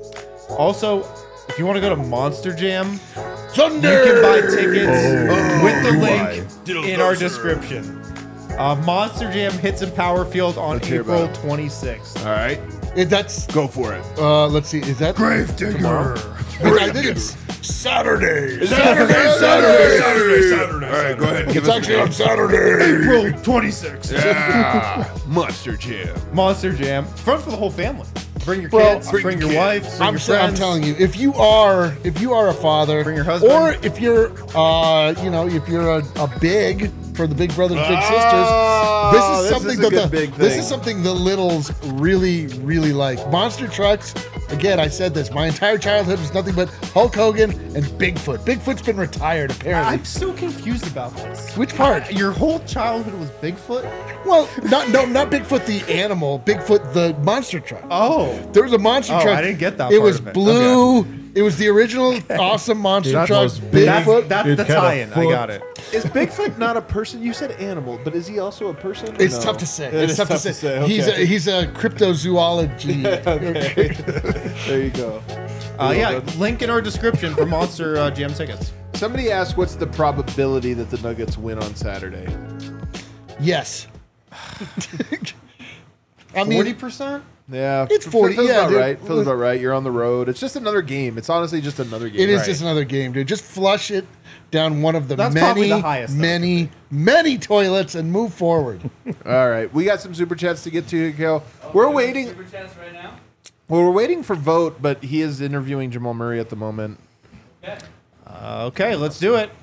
Speaker 2: Also, if you want to go to Monster Jam,
Speaker 3: Thunder.
Speaker 2: you can buy tickets
Speaker 3: Oh,
Speaker 2: with the link in our description. Uh, Monster Jam hits in Power Field on
Speaker 1: Let's hear
Speaker 2: April
Speaker 1: about it.
Speaker 2: twenty-sixth.
Speaker 1: All right,
Speaker 3: It, that's
Speaker 1: go for it.
Speaker 3: uh, let's see. Is that
Speaker 4: Gravedigger.
Speaker 3: I think it's Saturday.
Speaker 1: Saturday, Saturday, Saturday, Saturday. All right, go ahead. And give
Speaker 3: It's
Speaker 1: us
Speaker 3: actually
Speaker 1: a
Speaker 3: on Saturday.
Speaker 2: April twenty-sixth.
Speaker 1: yeah. Monster Jam.
Speaker 2: Monster Jam. Fun for the whole family. Bring your
Speaker 3: Well,
Speaker 2: kids,
Speaker 1: bring
Speaker 2: bring,
Speaker 1: your
Speaker 2: your
Speaker 1: kids.
Speaker 2: wife, bring
Speaker 3: I'm,
Speaker 2: your
Speaker 3: sa- I'm
Speaker 2: friends.
Speaker 3: telling you, if you are if you are a father,
Speaker 2: Bring your husband.
Speaker 3: or if you're uh, you know, if you're a, a big for the Big Brothers Big
Speaker 1: Oh,
Speaker 3: Sisters, this is
Speaker 1: this
Speaker 3: something
Speaker 1: is a
Speaker 3: that
Speaker 1: good
Speaker 3: the
Speaker 1: big
Speaker 3: this
Speaker 1: thing.
Speaker 3: is something the littles really really like. Monster trucks. Again, I said this. My entire childhood was nothing but Hulk Hogan and Bigfoot. Bigfoot's been retired apparently.
Speaker 2: I'm so confused about this.
Speaker 3: Which part?
Speaker 2: Your whole childhood was Bigfoot?
Speaker 3: Well, not no, not Bigfoot the animal. Bigfoot the monster truck.
Speaker 2: Oh.
Speaker 3: There was a monster
Speaker 2: Oh,
Speaker 3: truck.
Speaker 2: I didn't get that
Speaker 3: It
Speaker 2: part
Speaker 3: was
Speaker 2: of it.
Speaker 3: blue. It was the original awesome monster
Speaker 4: That
Speaker 3: truck.
Speaker 4: was big.
Speaker 3: Bigfoot.
Speaker 2: That's
Speaker 4: It
Speaker 2: the
Speaker 4: had a
Speaker 2: tie-in. I
Speaker 4: foot.
Speaker 2: got it.
Speaker 1: Is Bigfoot not a person? You said animal, but is he also a person? or
Speaker 3: It's
Speaker 1: no?
Speaker 3: tough to say.
Speaker 1: It
Speaker 3: it's
Speaker 1: is
Speaker 3: tough, to say.
Speaker 1: Okay.
Speaker 3: He's a he's a cryptozoology.
Speaker 1: okay. There you go.
Speaker 2: Uh, yeah, link in our description for Monster uh, Jam tickets.
Speaker 1: Somebody asked, "What's the probability that the Nuggets win on Saturday?"
Speaker 3: Yes. I mean,
Speaker 2: forty percent?
Speaker 1: Yeah,
Speaker 3: It's
Speaker 1: f-
Speaker 3: forty,
Speaker 1: Feels
Speaker 3: yeah,
Speaker 1: about
Speaker 3: dude.
Speaker 1: right. Feels about right. You're on the road. It's just another game. It's honestly just another game.
Speaker 3: it is
Speaker 1: Right.
Speaker 3: just another game, dude. Just flush it down one of the
Speaker 2: That's probably
Speaker 3: many,
Speaker 2: the highest, though.
Speaker 3: many, many toilets and move forward.
Speaker 1: All right, we got some super chats to get to, Go. We're waiting.
Speaker 5: Super chats right now.
Speaker 1: Well, we're waiting for vote, but he is interviewing Jamal Murray at the moment.
Speaker 5: Bet.
Speaker 2: Uh, okay, let's do it.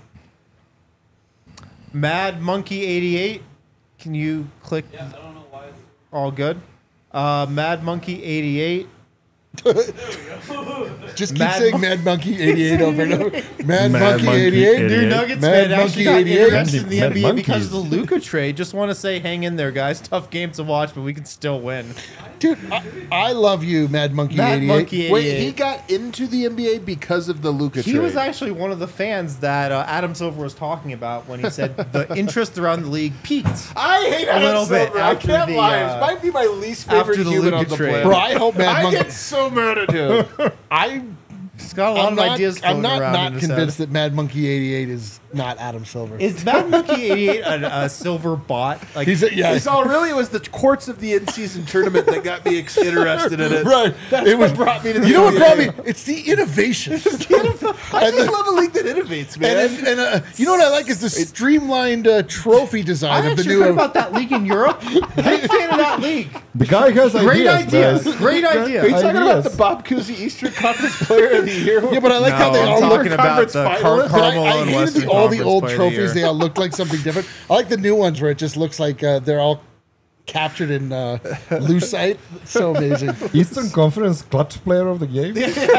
Speaker 2: Mad Monkey eighty-eight. Can you click
Speaker 5: Yeah, I don't know why. It's...
Speaker 2: all good? Uh, Mad Monkey eighty-eight.
Speaker 3: Just keep
Speaker 2: Mad
Speaker 3: saying
Speaker 2: Mon-
Speaker 3: Mad Monkey eighty-eight over and over. Mad,
Speaker 4: Mad
Speaker 3: Monkey,
Speaker 4: Monkey
Speaker 3: eighty-eight.
Speaker 4: eighty-eight.
Speaker 2: New Nuggets
Speaker 3: Mad
Speaker 2: fan
Speaker 3: Monkey
Speaker 2: actually got
Speaker 3: eighty-eight.
Speaker 2: interested in the
Speaker 4: Mad
Speaker 2: N B A because of the
Speaker 4: Monkeys.
Speaker 2: Luka trade. Just want to say, hang in there, guys. Tough game to watch, but we can still win.
Speaker 3: Dude, I, I love you, Mad Monkey
Speaker 2: Mad
Speaker 3: eighty-eight.
Speaker 2: Monkey
Speaker 1: Wait,
Speaker 2: eighty-eight.
Speaker 1: he got into the N B A because of the Luka
Speaker 2: He
Speaker 1: trade.
Speaker 2: was actually one of the fans that uh, Adam Silver was talking about when he said the interest around the league peaked.
Speaker 1: I hate
Speaker 2: A
Speaker 1: Adam
Speaker 2: little bit
Speaker 1: Silver. I
Speaker 2: after
Speaker 1: can't
Speaker 2: the,
Speaker 1: lie.
Speaker 2: uh,
Speaker 1: It might be my least favorite
Speaker 2: after the
Speaker 1: human
Speaker 2: Luka
Speaker 1: on the
Speaker 2: trade.
Speaker 1: planet.
Speaker 3: Bro, I hope Mad
Speaker 1: I
Speaker 3: Monkey.
Speaker 1: get so mad at him.
Speaker 3: I,
Speaker 2: He's got a lot
Speaker 3: I'm
Speaker 2: of
Speaker 3: not,
Speaker 2: ideas
Speaker 3: I'm
Speaker 2: floating
Speaker 3: not,
Speaker 2: around
Speaker 3: not
Speaker 2: in his
Speaker 3: convinced
Speaker 2: head.
Speaker 3: that Mad Monkey eighty-eight is not Adam Silver.
Speaker 2: Is Mad Monkey eighty-eight a, a silver bot? Like
Speaker 3: He's a, yeah,
Speaker 1: It's all really it was the courts of the in-season tournament that got me ex- interested in it.
Speaker 3: right.
Speaker 1: That's
Speaker 3: it
Speaker 1: what
Speaker 3: was
Speaker 1: brought me to the
Speaker 3: You know what
Speaker 1: N B A.
Speaker 3: brought me? It's the innovation.
Speaker 1: I just love a league that innovates, man.
Speaker 3: And, and uh, you know what I like is the streamlined uh, trophy
Speaker 2: I
Speaker 3: design of the
Speaker 2: actually
Speaker 3: new.
Speaker 2: heard about that league in Europe. Big fan of that league.
Speaker 4: The guy has
Speaker 2: Great
Speaker 4: ideas.
Speaker 2: idea.
Speaker 4: man.
Speaker 2: Great idea.
Speaker 1: Are you talking about
Speaker 4: ideas.
Speaker 1: the Bob Cousy Eastern Conference Player of the Year?
Speaker 3: yeah, but I like how
Speaker 2: No,
Speaker 3: they
Speaker 2: I'm
Speaker 3: all
Speaker 2: talking
Speaker 3: look.
Speaker 2: about
Speaker 1: conference
Speaker 2: the Car-
Speaker 1: finalists.
Speaker 3: But I,
Speaker 2: Carmelo
Speaker 3: I
Speaker 2: and
Speaker 3: hated
Speaker 2: Western
Speaker 3: the, all the
Speaker 2: Conference
Speaker 3: old
Speaker 2: Player of the
Speaker 3: trophies.
Speaker 2: Year.
Speaker 3: They all look like something different. I like the new ones where it just looks like uh, they're all captured in uh, lucite. So amazing.
Speaker 4: Eastern Conference clutch player of the game.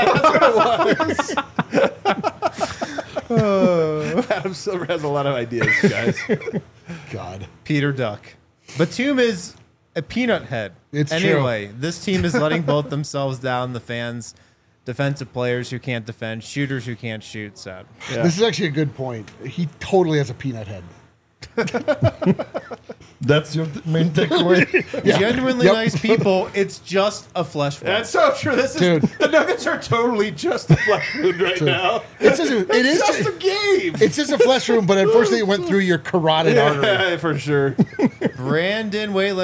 Speaker 1: Adam Silver has a lot of ideas, guys.
Speaker 3: God.
Speaker 2: Peter Duck. Batum is a peanut head.
Speaker 3: It's true.
Speaker 2: anyway, this team is letting both themselves down. The fans, defensive players who can't defend, shooters who can't shoot. Sad.
Speaker 3: This is actually a good point. He totally has a peanut head.
Speaker 4: That's your th- main takeaway.
Speaker 2: Genuinely
Speaker 3: Yep.
Speaker 2: nice people. It's just a flesh wound.
Speaker 1: That's so true. This is
Speaker 3: Dude.
Speaker 1: the Nuggets are totally just a flesh wound right now.
Speaker 3: It's just, it is
Speaker 1: It's just a
Speaker 3: just,
Speaker 1: game.
Speaker 3: it's just a flesh wound, but unfortunately it went through your carotid artery.
Speaker 1: Yeah, for sure.
Speaker 2: Brandon Whalen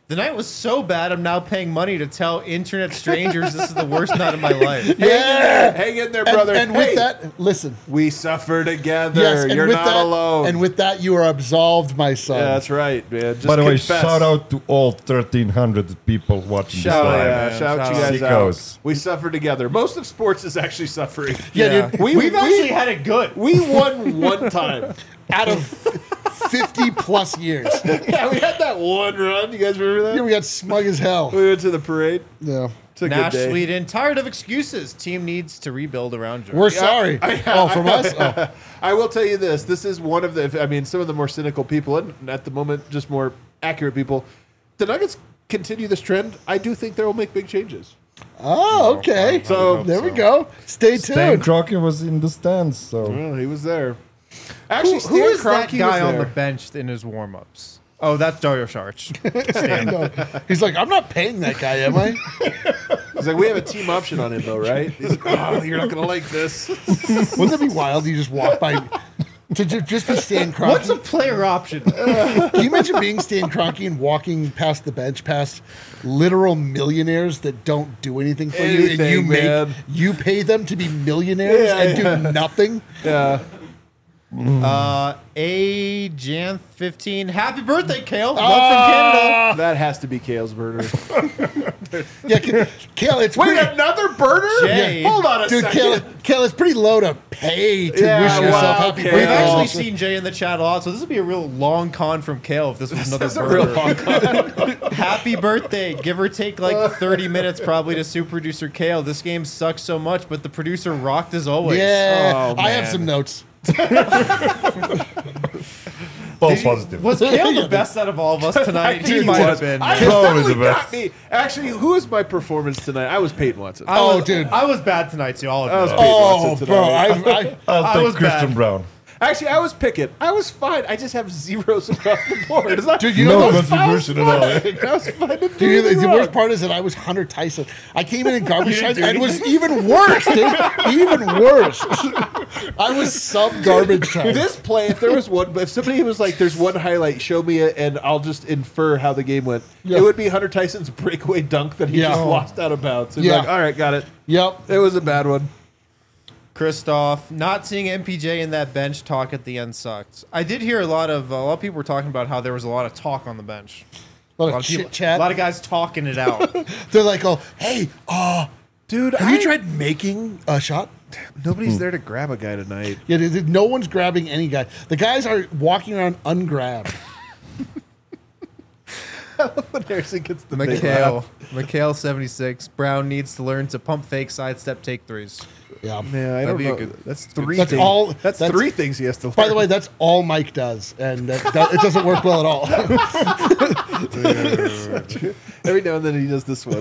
Speaker 2: The night was so bad, I'm now paying money to tell internet strangers this is the worst night of my life.
Speaker 3: Yeah.
Speaker 1: Hang in there,
Speaker 3: And,
Speaker 1: brother.
Speaker 3: and
Speaker 1: Hey,
Speaker 3: with that, listen.
Speaker 1: we suffer together.
Speaker 3: Yes, and
Speaker 1: You're
Speaker 3: with
Speaker 1: not
Speaker 3: that,
Speaker 1: alone.
Speaker 3: And with that, you are absolved, my son.
Speaker 1: yeah, that's right, man. Just
Speaker 4: By the way,
Speaker 1: confess.
Speaker 4: shout out to all thirteen hundred people watching
Speaker 2: Shout
Speaker 1: Oh,
Speaker 4: this
Speaker 2: out,
Speaker 4: live.
Speaker 1: yeah,
Speaker 2: man.
Speaker 1: shout
Speaker 2: Shout
Speaker 1: you
Speaker 2: out.
Speaker 1: guys
Speaker 4: Sickos.
Speaker 1: out. We suffer together. Most of sports is actually suffering.
Speaker 3: Yeah, dude.
Speaker 2: We,
Speaker 1: We-
Speaker 2: We've
Speaker 1: we-
Speaker 2: actually had it good.
Speaker 1: We won one time.
Speaker 3: Out of fifty plus years.
Speaker 1: Yeah, we had that one run. You guys remember that?
Speaker 3: Yeah, we got smug as hell.
Speaker 1: We went to the parade.
Speaker 3: Yeah.
Speaker 1: It's a
Speaker 2: Nash
Speaker 1: good day.
Speaker 2: Sweden, tired of excuses. Team needs to rebuild around Jordan.
Speaker 3: We're sorry.
Speaker 1: I-
Speaker 3: oh, from us? Oh.
Speaker 1: I will tell you this. This is one of the, I mean, some of the more cynical people, and at the moment, just more accurate people. The Nuggets continue this trend. I do think they will make big changes.
Speaker 3: Oh, okay.
Speaker 1: So-
Speaker 3: there we go. Stay
Speaker 4: Stan
Speaker 3: tuned.
Speaker 4: Kroenke was in the stands, so
Speaker 1: Well, he was there. Actually,
Speaker 2: Who, who is
Speaker 1: Stan
Speaker 2: that
Speaker 1: Kroenke
Speaker 2: guy
Speaker 1: was
Speaker 2: on the
Speaker 1: there.
Speaker 2: bench in his warm-ups? Oh, that's Dario Saric.
Speaker 3: I know. He's like, I'm not paying that guy, am I?
Speaker 1: He's like, we have a team option on him, though, right? He's like, oh, you're not going to like this.
Speaker 3: Wouldn't that be wild? You just walk by to ju- just be Stan Kroenke.
Speaker 2: What's a player option?
Speaker 3: Can you imagine being Stan Kroenke and walking past the bench, past literal millionaires that don't do anything for you, and
Speaker 1: Anything,
Speaker 3: you make
Speaker 1: man.
Speaker 3: you pay them to be millionaires
Speaker 1: Yeah,
Speaker 3: and
Speaker 1: yeah.
Speaker 3: do nothing?
Speaker 1: Yeah.
Speaker 2: uh, A Jan fifteen. Happy birthday, Kale. Love
Speaker 3: Ah!
Speaker 2: from Canada.
Speaker 1: That has to be Kale's burner.
Speaker 3: Yeah, K- Kale, it's
Speaker 1: Wait,
Speaker 3: pretty,
Speaker 1: another burner?
Speaker 2: Jay.
Speaker 1: Hold on a
Speaker 3: dude.
Speaker 1: second.
Speaker 3: Kale, Kale, it's pretty low to pay to
Speaker 1: Yeah,
Speaker 3: wish
Speaker 1: wow,
Speaker 3: yourself happy
Speaker 1: Kale.
Speaker 2: We've
Speaker 3: birthday.
Speaker 2: actually seen Jay in the chat a lot, so this would be a real long con from Kale if this was another
Speaker 1: That's a real
Speaker 2: burger.
Speaker 1: long con.
Speaker 2: Happy birthday. Give or take like thirty minutes probably to super producer Kale. This game sucks so much, but the producer rocked as always.
Speaker 3: Yeah,
Speaker 1: Oh,
Speaker 3: I have
Speaker 1: man.
Speaker 3: some notes.
Speaker 4: all
Speaker 2: Did you-
Speaker 4: positive.
Speaker 2: Was Kale the best out of all of us tonight? He
Speaker 1: He
Speaker 2: might have
Speaker 1: was.
Speaker 2: been.
Speaker 1: I
Speaker 2: man.
Speaker 1: was
Speaker 4: Probably
Speaker 1: definitely
Speaker 4: the best.
Speaker 1: got me. Actually, who was my performance tonight? I was Peyton Watson.
Speaker 2: I
Speaker 3: Oh,
Speaker 2: was,
Speaker 3: dude.
Speaker 2: I was bad tonight too. I'll admit
Speaker 1: was
Speaker 2: it.
Speaker 1: Pete
Speaker 3: Oh,
Speaker 1: Watson
Speaker 3: bro, I,
Speaker 1: tonight.
Speaker 3: I
Speaker 4: I'll
Speaker 2: I
Speaker 4: take
Speaker 2: was
Speaker 4: Christian
Speaker 2: bad.
Speaker 4: Brown.
Speaker 1: Actually, I was Pickett. I was fine. I just have zeros across the board. It's not,
Speaker 3: Dude, you
Speaker 4: No
Speaker 3: know the
Speaker 4: contribution at all.
Speaker 1: I was fine. I didn't do
Speaker 3: Dude, the,
Speaker 1: anything
Speaker 3: the
Speaker 1: wrong.
Speaker 3: worst part is that I was Hunter Tyson. I came in in garbage time and it was even worse, dude. Even worse. I was sub garbage time.
Speaker 1: This play, if there was one, if somebody was like, "There's one highlight, show me it," and I'll just infer how the game went.
Speaker 3: Yeah.
Speaker 1: It would be Hunter Tyson's breakaway dunk that he
Speaker 3: Yeah.
Speaker 1: just
Speaker 3: Oh.
Speaker 1: lost out of bounds. And
Speaker 3: Yeah.
Speaker 1: like, all right, got it.
Speaker 3: Yep.
Speaker 1: It was a bad one.
Speaker 2: Christoph, not seeing M P J in that bench talk at the end sucked. I did hear a lot of a lot of people were talking about how there was a lot of talk on the bench.
Speaker 3: A lot
Speaker 2: A lot
Speaker 3: of
Speaker 2: of people,
Speaker 3: chit chat.
Speaker 2: a lot of guys talking it out.
Speaker 3: They're like, oh, hey, uh,
Speaker 1: Dude,
Speaker 3: have
Speaker 1: I,
Speaker 3: you tried making a shot?
Speaker 1: Nobody's there to grab a guy tonight.
Speaker 3: Yeah, there- there- no one's grabbing any guy. The guys are walking around ungrabbed.
Speaker 1: When Harrison gets the big
Speaker 2: Mikhail,
Speaker 1: laugh.
Speaker 2: Mikhail seventy-six. Brown needs to learn to pump fake sidestep take threes.
Speaker 3: Yeah.
Speaker 1: Yeah, I
Speaker 2: That'd
Speaker 1: don't
Speaker 2: be a
Speaker 1: know.
Speaker 2: good-
Speaker 1: that's three.
Speaker 3: That's
Speaker 1: things.
Speaker 3: all-
Speaker 1: That's,
Speaker 3: that's-
Speaker 1: three things he has to learn.
Speaker 3: By the way, that's all Mike does, and that, that, it doesn't work well at all.
Speaker 1: every now and then he does this one.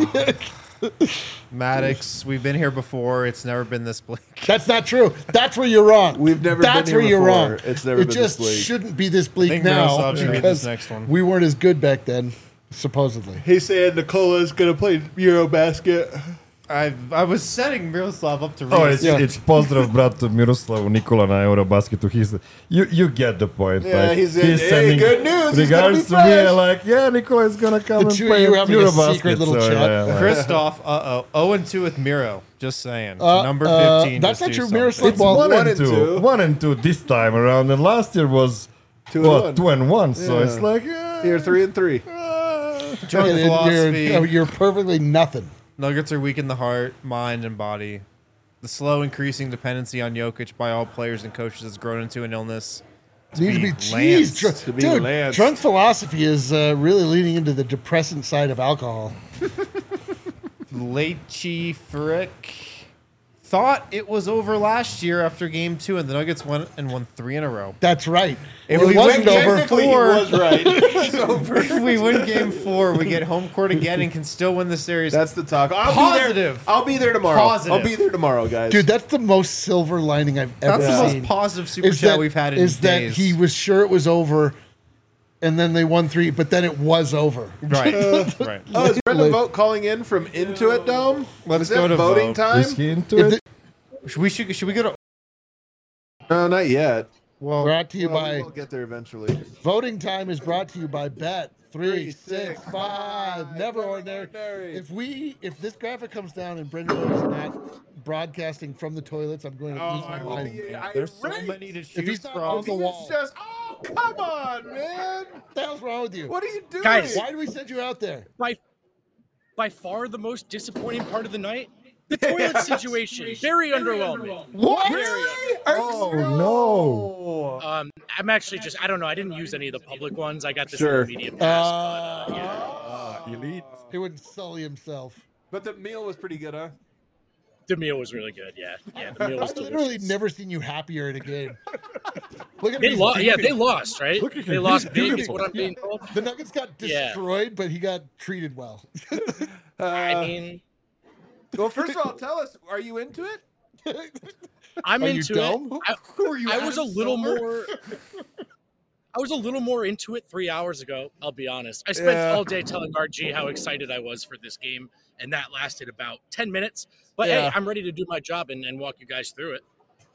Speaker 2: Maddox, we've been here before. It's never been this bleak.
Speaker 3: That's not true. That's where you're wrong.
Speaker 1: We've never
Speaker 3: That's
Speaker 1: been here
Speaker 3: where you're
Speaker 1: before.
Speaker 3: wrong.
Speaker 1: It's never
Speaker 3: it
Speaker 1: been
Speaker 3: just
Speaker 1: this bleak.
Speaker 3: shouldn't be this bleak
Speaker 2: I think
Speaker 3: now
Speaker 2: Miroslav should read this
Speaker 3: because
Speaker 2: next one.
Speaker 3: we weren't as good back then, supposedly.
Speaker 1: He's saying Nicola's gonna play Eurobasket.
Speaker 2: I I was setting Miroslav up to read.
Speaker 4: Oh, it's,
Speaker 3: Yeah.
Speaker 4: it's pozdrav brat Miroslavu Nikola na Eurobasketu. He's you you get the point.
Speaker 1: Yeah,
Speaker 4: like,
Speaker 1: he's in- hey, good news, he's gonna be
Speaker 4: regards to me.
Speaker 1: fresh.
Speaker 4: Like, yeah, Nikola is gonna come
Speaker 3: The
Speaker 4: and
Speaker 3: two of
Speaker 4: play
Speaker 3: you having a
Speaker 4: Eurobasket.
Speaker 3: secret little
Speaker 4: so,
Speaker 3: chat.
Speaker 4: yeah, like-
Speaker 2: Christoph, uh oh, zero and two with Miro. Just saying,
Speaker 3: Uh,
Speaker 2: number
Speaker 3: uh,
Speaker 2: fifteen.
Speaker 3: that's
Speaker 2: just
Speaker 3: not
Speaker 2: do
Speaker 3: true.
Speaker 2: something.
Speaker 3: Miroslav-
Speaker 4: It's
Speaker 3: Well,
Speaker 4: one,
Speaker 1: one
Speaker 4: and
Speaker 1: and
Speaker 4: two.
Speaker 1: two.
Speaker 4: One and two this time around, and last year was
Speaker 1: Two and
Speaker 4: what
Speaker 1: one.
Speaker 4: two and one. So
Speaker 1: Yeah.
Speaker 4: it's like uh,
Speaker 1: You're three and three.
Speaker 2: Drunk
Speaker 3: Yeah, you're-
Speaker 2: philosophy.
Speaker 3: You're, you're perfectly nothing.
Speaker 2: Nuggets are weak in the heart, mind, and body. The slow increasing dependency on Jokic by all players and coaches has grown into an illness.
Speaker 3: Needs to
Speaker 2: be
Speaker 3: be, jeez,
Speaker 2: Lance.
Speaker 3: Dr-
Speaker 1: To be
Speaker 3: dude.
Speaker 1: Lance.
Speaker 3: Drunk philosophy is uh, really leaning into the depressant side of alcohol.
Speaker 2: Leitchi Frick thought it was over last year after game two, and the Nuggets went and won three in a row.
Speaker 3: That's right.
Speaker 2: If
Speaker 3: Well,
Speaker 2: we
Speaker 3: it wasn't
Speaker 2: win
Speaker 3: over.
Speaker 1: Technically, he
Speaker 2: four-
Speaker 1: was right. It's over.
Speaker 2: If we win game four, we get home court again and can still win the series.
Speaker 1: That's the talk. I'll Be
Speaker 2: Positive.
Speaker 1: there. I'll be there tomorrow.
Speaker 2: Positive.
Speaker 1: I'll be there tomorrow, guys.
Speaker 3: Dude, that's the most silver lining I've ever
Speaker 2: That's the
Speaker 3: seen.
Speaker 2: most positive super
Speaker 3: is
Speaker 2: chat
Speaker 3: that,
Speaker 2: we've had in
Speaker 3: is that
Speaker 2: days.
Speaker 3: he was sure it was over, and then they won three, but then it was over.
Speaker 2: right, right.
Speaker 1: oh, is Brendan Vogt calling in from Intuit Dome?
Speaker 2: Let's
Speaker 1: is it
Speaker 2: go to
Speaker 1: voting
Speaker 2: vote.
Speaker 1: time?
Speaker 4: is he into
Speaker 3: If
Speaker 4: it?
Speaker 3: the-
Speaker 2: Should we should, should we go to
Speaker 1: No, not yet.
Speaker 2: Well,
Speaker 3: Brought to you
Speaker 1: Well, we
Speaker 3: by
Speaker 1: will get there eventually.
Speaker 3: Voting Time is brought to you by Bet three
Speaker 1: Three,
Speaker 3: six
Speaker 1: six,
Speaker 3: five.
Speaker 1: five.
Speaker 3: Never
Speaker 1: Never
Speaker 3: ordinary.
Speaker 1: ordinary.
Speaker 3: If we if this graphic comes down and Brendan Burke is not broadcasting from the toilets, I'm going to lose
Speaker 1: Oh,
Speaker 3: my
Speaker 1: I will
Speaker 3: mind.
Speaker 1: be
Speaker 2: there's so
Speaker 1: irate.
Speaker 2: many to
Speaker 3: If
Speaker 2: choose
Speaker 3: he's not
Speaker 2: from.
Speaker 3: on the
Speaker 1: This
Speaker 3: wall,
Speaker 1: is just. Oh, come on, man.
Speaker 3: what the hell's wrong with you?
Speaker 1: What are you doing?
Speaker 6: Guys.
Speaker 3: Why do we send you out there?
Speaker 6: by by far the most disappointing part of the night, the toilet situation. Very underwhelming.
Speaker 1: What?
Speaker 6: Very
Speaker 1: Really? Are you
Speaker 4: Oh,
Speaker 1: serious?
Speaker 4: no.
Speaker 6: Um, I'm actually just I don't know. I didn't use any of the public ones. I got this
Speaker 1: Sure.
Speaker 6: little media pass,
Speaker 3: Uh,
Speaker 6: but uh, yeah,
Speaker 4: Ah, elite.
Speaker 3: He wouldn't sully himself.
Speaker 1: But the meal was pretty good, huh?
Speaker 6: the meal was really good. Yeah, yeah, the meal was
Speaker 3: I've literally
Speaker 6: delicious.
Speaker 3: never seen you happier in a game. Look at
Speaker 6: They
Speaker 3: him.
Speaker 6: lost.
Speaker 3: he's
Speaker 6: Yeah,
Speaker 3: beaming.
Speaker 6: they lost. Right?
Speaker 4: Look at
Speaker 6: They
Speaker 4: him.
Speaker 6: lost
Speaker 4: He's
Speaker 6: big. Is
Speaker 4: beautiful.
Speaker 6: what I'm being told.
Speaker 3: The Nuggets got
Speaker 6: Yeah.
Speaker 3: destroyed, but he got treated well.
Speaker 6: I mean,
Speaker 1: Well, first of all, tell us, are you into it?
Speaker 6: I'm
Speaker 3: Are you
Speaker 6: into
Speaker 3: dumb?
Speaker 6: it. I,
Speaker 3: Were you
Speaker 6: I was a
Speaker 3: Adam
Speaker 6: little
Speaker 3: Silver?
Speaker 6: more. I was a little more into it three hours ago. I'll be honest. I spent
Speaker 1: Yeah.
Speaker 6: all day telling R G how excited I was for this game, and that lasted about ten minutes. But
Speaker 1: Yeah.
Speaker 6: hey, I'm ready to do my job and, and walk you guys through it.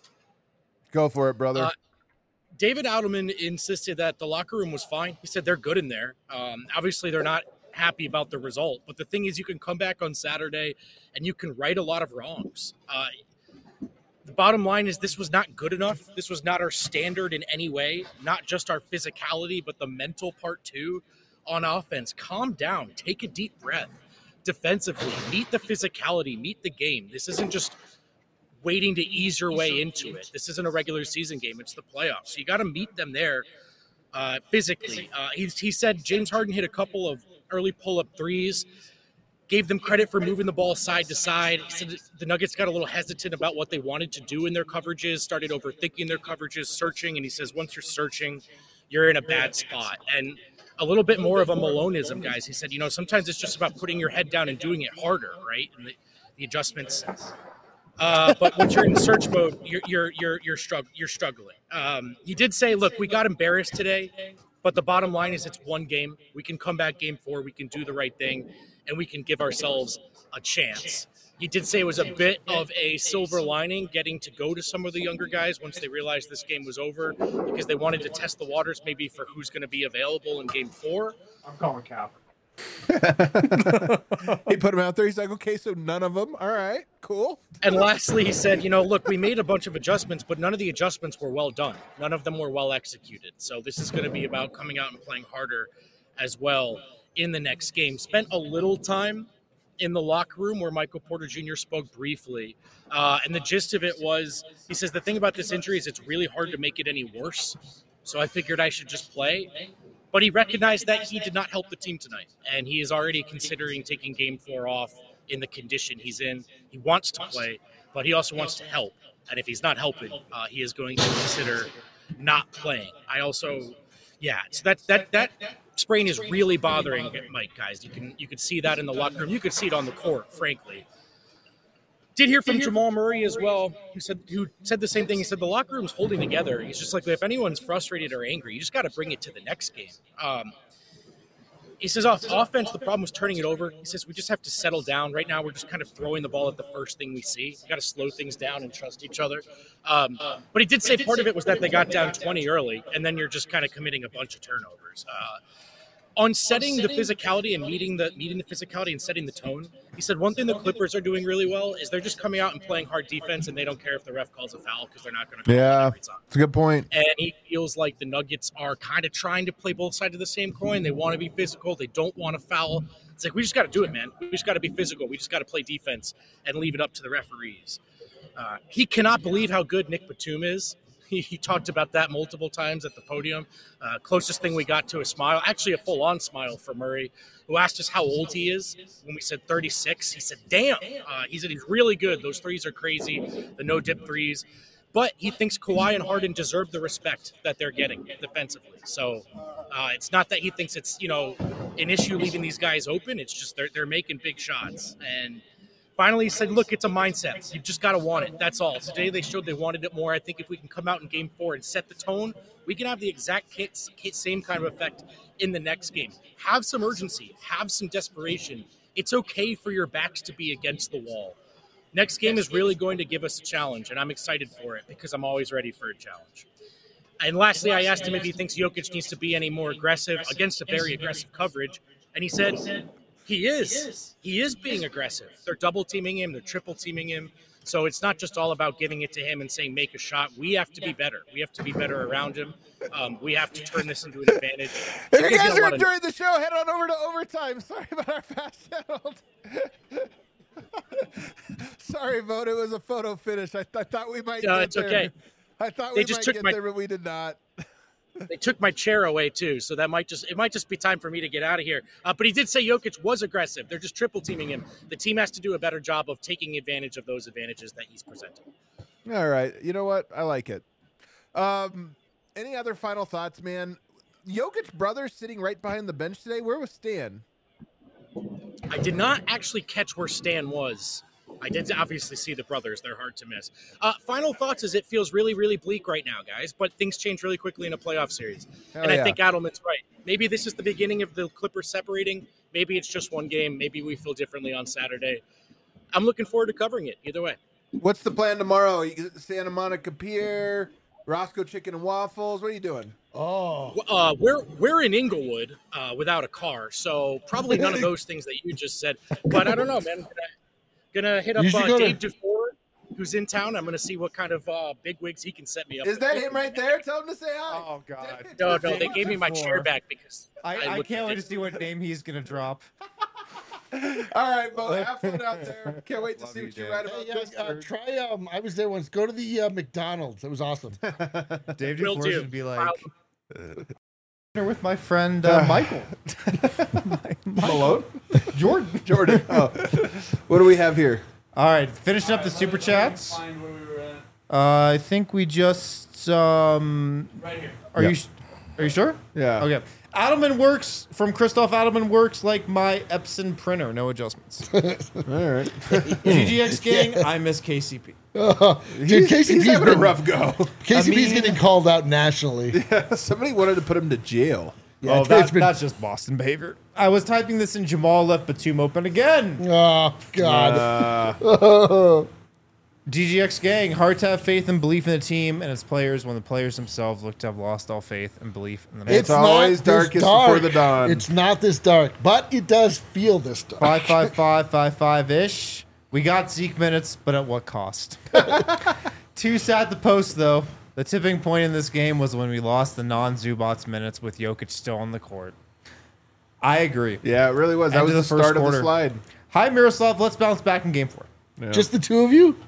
Speaker 1: Go for it, brother.
Speaker 6: Uh, David Adelman insisted that the locker room was fine. He said they're good in there. Um, obviously, they're not happy about the result. But the thing is, you can come back on Saturday and you can right a lot of wrongs. Uh, the bottom line is this was not good enough. This was not our standard in any way, not just our physicality, but the mental part too. On offense, calm down, take a deep breath. Defensively, meet the physicality, meet the game. This isn't just waiting to ease your way into it. This isn't a regular season game. It's the playoffs. So you got to meet them there uh, physically. Uh, he, he said James Harden hit a couple of early pull-up threes, gave them credit for moving the ball side to side. He said the Nuggets got a little hesitant about what they wanted to do in their coverages, started overthinking their coverages, searching. And he says once you're searching, you're in a bad spot. And a little bit more of a Maloneism, guys. He said, you know, sometimes it's just about putting your head down and doing it harder, right? And the, the adjustments. Uh, but once you're in search mode, you're you're you're you're, strugg- you're struggling. Um, he did say, look, we got embarrassed today, but the bottom line is it's one game. We can come back game four. We can do the right thing, and we can give ourselves a chance. He did say it was a bit of a silver lining getting to go to some of the younger guys once they realized this game was over because they wanted to test the waters maybe for who's going to be available in game four.
Speaker 5: I'm calling Cap.
Speaker 1: He put him out there. He's like, okay, so none of them. All right, cool.
Speaker 6: And lastly, he said, you know, look, we made a bunch of adjustments, but none of the adjustments were well done. None of them were well executed. So this is going to be about coming out and playing harder as well in the next game. Spent a little time in the locker room where Michael Porter Junior spoke briefly. Uh, and the gist of it was, he says, the thing about this injury is it's really hard to make it any worse. So I figured I should just play. But he recognized that he did not help the team tonight. And he is already considering taking game four off in the condition he's in. He wants to play, but he also wants to help. And if he's not helping, uh, he is going to consider not playing. I also, yeah, so that that that sprain is really bothering Mike, guys. You can you can see that in the locker room. You could see it on the court, frankly. Did hear from Jamal Murray as well, who said who said the same thing. He said the locker room's holding together. He's just like, if anyone's frustrated or angry, you just got to bring it to the next game. Um, he says off offense, the problem was turning it over. He says we just have to settle down. Right now, we're just kind of throwing the ball at the first thing we see. We got to slow things down and trust each other. Um, but he did say part of it was that they got down twenty early, and then you're just kind of committing a bunch of turnovers. Uh, On setting the physicality and meeting the meeting the physicality and setting the tone, he said one thing the Clippers are doing really well is they're just coming out and playing hard defense, and they don't care if the ref calls a foul because they're not going to call
Speaker 1: Yeah,
Speaker 6: it every time.
Speaker 1: it's a good point.
Speaker 6: And he feels like the Nuggets are kind of trying to play both sides of the same coin. They want to be physical. They don't want to foul. It's like, we just got to do it, man. We just got to be physical. We just got to play defense and leave it up to the referees. Uh, he cannot believe how good Nick Batum is. He, he talked about that multiple times at the podium. Uh, closest thing we got to a smile, actually a full-on smile for Murray, who asked us how old he is. When we said thirty-six, he said, damn. Uh, he said he's really good. Those threes are crazy, the no-dip threes. But he thinks Kawhi and Harden deserve the respect that they're getting defensively. So uh, it's not that he thinks it's, you know, an issue leaving these guys open. It's just they're, they're making big shots. And finally, he said, look, it's a mindset. You've just got to want it. That's all. Today, they showed they wanted it more. I think if we can come out in game four and set the tone, we can have the exact same kind of effect in the next game. Have some urgency. Have some desperation. It's okay for your backs to be against the wall. Next game is really going to give us a challenge, and I'm excited for it because I'm always ready for a challenge. And lastly, I asked him if he thinks Jokic needs to be any more aggressive against a very aggressive coverage, and he said he is. He is being aggressive. They're double teaming him. They're triple teaming him. So it's not just all about giving it to him and saying make a shot. We have to be better. We have to be better around him. Um, we have to turn this into an advantage.
Speaker 1: If you guys are enjoying the show, head on over to overtime. Sorry about our fast channel. Sorry, Vote. It was a photo finish. I, th- I thought we might.
Speaker 6: No,
Speaker 1: get
Speaker 6: it's
Speaker 1: there.
Speaker 6: okay.
Speaker 1: I thought
Speaker 6: They
Speaker 1: we
Speaker 6: just
Speaker 1: might
Speaker 6: took
Speaker 1: get
Speaker 6: my-
Speaker 1: there, but we did not.
Speaker 6: They took my chair away too, so that might just it might just be time for me to get out of here. Uh, but he did say Jokic was aggressive. They're just triple teaming him. The team has to do a better job of taking advantage of those advantages that he's presenting.
Speaker 1: All right. You know what? I like it. Um, any other final thoughts, man? Jokic brothers sitting right behind the bench today. Where was Stan?
Speaker 6: I did not actually catch where Stan was. I did obviously see the brothers. They're hard to miss. Uh, final thoughts is it feels really, really bleak right now, guys, but things change really quickly in a playoff series.
Speaker 1: Hell
Speaker 6: and
Speaker 1: yeah.
Speaker 6: I think Adelman's right. Maybe this is the beginning of the Clippers separating. Maybe it's just one game. Maybe we feel differently on Saturday. I'm looking forward to covering it either way.
Speaker 1: What's the plan tomorrow? You get Santa Monica Pier, Roscoe Chicken and Waffles. What are you doing?
Speaker 3: Oh,
Speaker 6: Uh, we're we're in Inglewood uh, without a car, so probably none of those things that you just said. But I don't know, man. Gonna, gonna hit up
Speaker 3: You should
Speaker 6: uh,
Speaker 3: go to-
Speaker 6: Dave DeFore, who's in town. I'm gonna see what kind of uh, big wigs he can set me up.
Speaker 1: Is
Speaker 6: with.
Speaker 1: that him right there? Tell him to say hi.
Speaker 2: Oh, God.
Speaker 6: No, no, they gave me my chair back because
Speaker 2: I, I
Speaker 6: looked
Speaker 2: can't wait to
Speaker 6: ridiculous.
Speaker 2: see what name he's going to drop.
Speaker 1: All right, Bo. Have fun out there. Can't wait to
Speaker 2: Love
Speaker 1: see
Speaker 2: you,
Speaker 1: what you
Speaker 2: Dan.
Speaker 1: write about
Speaker 3: Hey,
Speaker 1: this.
Speaker 3: uh, uh, try. Um, I was there once. Go to the uh, McDonald's. It was awesome.
Speaker 2: Dave
Speaker 6: Will
Speaker 2: DeFore
Speaker 6: do.
Speaker 2: should be like,
Speaker 6: I'll-
Speaker 2: dinner with my friend uh, Michael.
Speaker 1: Malone?
Speaker 2: Jordan.
Speaker 1: Jordan. Oh. What do we have here?
Speaker 2: All right, finishing up the super chats.
Speaker 5: Find where we were at.
Speaker 2: Uh, I think we just um.
Speaker 5: Right here.
Speaker 2: Are
Speaker 1: Yeah.
Speaker 2: you? Are you sure?
Speaker 1: Yeah.
Speaker 2: Okay. Adelman works from Christoph Adelman works like my Epson printer, no adjustments.
Speaker 1: All right.
Speaker 2: G G X gang, I miss K C P.
Speaker 3: Dude, K C
Speaker 1: He's
Speaker 3: P's
Speaker 1: having a
Speaker 3: been,
Speaker 1: rough go.
Speaker 3: K C P's
Speaker 2: I mean-
Speaker 3: getting called out nationally.
Speaker 1: Somebody wanted to put him to jail.
Speaker 3: Yeah,
Speaker 2: oh,
Speaker 3: it's
Speaker 2: that,
Speaker 3: been-
Speaker 2: that's just Boston behavior. I was typing this in Jamal left Batum open again.
Speaker 3: Oh God.
Speaker 1: Uh,
Speaker 2: G G X gang, hard to have faith and belief in the team and its players when the players themselves look to have lost all faith and belief in the
Speaker 1: It's always
Speaker 3: this
Speaker 1: darkest before the dawn.
Speaker 3: It's not this dark, but it does feel this dark.
Speaker 2: Five five five five five ish. We got Zeke minutes, but at what cost? Too sad to post though. The tipping point in this game was when we lost the non-Zubats minutes with Jokic still on the court. I agree.
Speaker 1: yeah, it really was. That
Speaker 2: End
Speaker 1: was
Speaker 2: of
Speaker 1: the,
Speaker 2: the first
Speaker 1: start of the
Speaker 2: quarter.
Speaker 1: slide.
Speaker 2: Hi Miroslav, let's bounce back in game four.
Speaker 3: Just the two of you?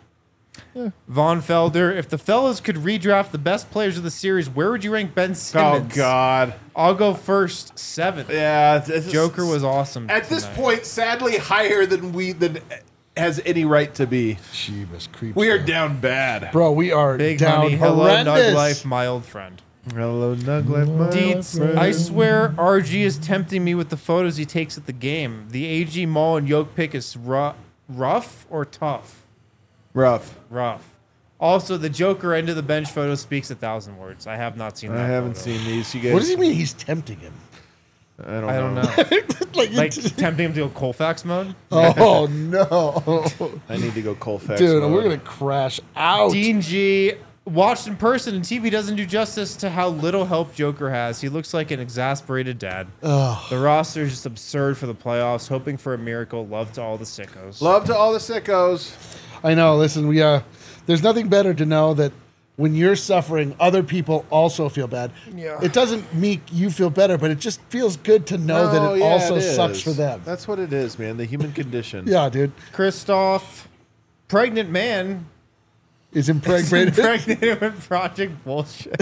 Speaker 2: Von Felder, if the fellas could redraft the best players of the series, where would you rank Ben
Speaker 1: Oh
Speaker 2: Simmons?
Speaker 1: God.
Speaker 2: I'll go first, seventh.
Speaker 1: Yeah. it's- it's-
Speaker 2: Joker was awesome.
Speaker 1: at this
Speaker 2: tonight.
Speaker 1: point sadly higher than we than has any right to be.
Speaker 3: Jeebus creeps.
Speaker 1: We are down bad.
Speaker 3: Bro, we are
Speaker 2: Big
Speaker 3: down
Speaker 2: honey, hello
Speaker 3: horrendous.
Speaker 2: Nug Life, my old friend.
Speaker 1: Hello, Nuglet.
Speaker 2: Deets, I swear R G is tempting me with the photos he takes at the game. The A G Mall and Yoke pick is ru- rough or tough?
Speaker 1: Rough.
Speaker 2: Rough. Also, the Joker end of the bench photo speaks a thousand words. I have not seen
Speaker 1: I
Speaker 2: that.
Speaker 1: haven't
Speaker 2: photo.
Speaker 1: seen these. You guys.
Speaker 3: What does he mean he's tempting him?
Speaker 1: I don't know.
Speaker 2: I don't know.
Speaker 3: like,
Speaker 2: like tempting him to go Colfax mode.
Speaker 3: oh no,
Speaker 1: I need to go Colfax.
Speaker 3: dude,
Speaker 1: mode.
Speaker 3: we're gonna crash out.
Speaker 2: Dean G. Watched in person and T V doesn't do justice to how little help Joker has. He looks like an exasperated dad.
Speaker 3: Ugh.
Speaker 2: The roster is just absurd for the playoffs. Hoping for a miracle. Love to all the sickos.
Speaker 1: Love to all the sickos.
Speaker 3: I know. Listen, we uh, there's nothing better to know that when you're suffering, other people also feel bad.
Speaker 2: Yeah.
Speaker 3: It doesn't make you feel better, but it just feels good to know
Speaker 1: Oh,
Speaker 3: that it
Speaker 1: yeah,
Speaker 3: also
Speaker 1: it
Speaker 3: sucks
Speaker 1: is.
Speaker 3: for them.
Speaker 1: That's what it is, man. The human condition.
Speaker 3: Yeah, dude,
Speaker 2: Christoph, pregnant man,
Speaker 3: is impregnated.
Speaker 2: impregnated with Project Bullshit.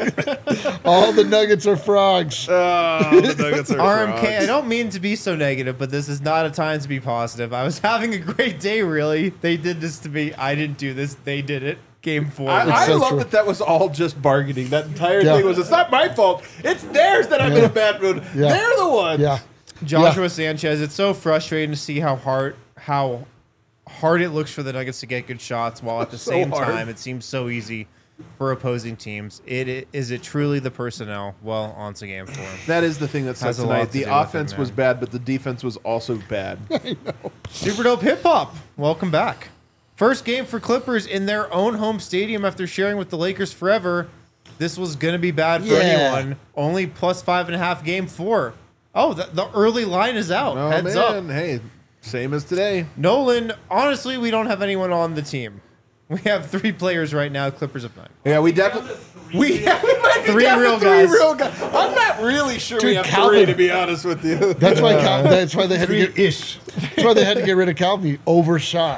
Speaker 3: All the nuggets are frogs.
Speaker 1: Oh, the Nuggets are
Speaker 2: R M K,
Speaker 1: frogs.
Speaker 2: I don't mean to be so negative, but this is not a time to be positive. I was having a great day, really. They did this to me. I didn't do this. They did it. Game four.
Speaker 1: I, I
Speaker 3: so
Speaker 1: love
Speaker 3: true.
Speaker 1: that that was all just bargaining. That entire
Speaker 3: Yeah.
Speaker 1: thing was, it's not my fault. It's theirs that I'm in a bad mood.
Speaker 3: Yeah.
Speaker 1: They're the ones.
Speaker 3: Yeah,
Speaker 2: Joshua Sanchez, it's so frustrating to see how hard how hard it looks for the Nuggets to get good shots, while at the
Speaker 1: So
Speaker 2: same
Speaker 1: hard.
Speaker 2: time it seems so easy for opposing teams. It, it is it truly the personnel? Well, on to game four.
Speaker 1: That is the thing that sucks
Speaker 2: Has a lot
Speaker 1: tonight.
Speaker 2: to
Speaker 1: The
Speaker 2: do with it,
Speaker 1: offense
Speaker 2: man.
Speaker 1: was bad, but the defense was also bad.
Speaker 2: Super dope hip hop. Welcome back. First game for Clippers in their own home stadium after sharing with the Lakers forever. this was going to be bad for
Speaker 3: Yeah.
Speaker 2: anyone. Only plus five and a half game four. Oh, the, the early line is out.
Speaker 1: Oh,
Speaker 2: Heads
Speaker 1: man.
Speaker 2: up.
Speaker 1: Hey, same as today.
Speaker 2: Nolan, honestly, we don't have anyone on the team. We have three players right now, Clippers of nine.
Speaker 1: Yeah, we definitely. We have we might be
Speaker 2: Three
Speaker 1: down to
Speaker 2: real
Speaker 1: three
Speaker 2: guys.
Speaker 1: real guys. I'm not really sure we
Speaker 3: Dude,
Speaker 1: have
Speaker 3: Calvin-
Speaker 1: three, to be honest with you.
Speaker 3: That's why. Cal- that's why they had to get.
Speaker 4: Ish.
Speaker 3: That's why they had to get rid of Calvin. He overshot.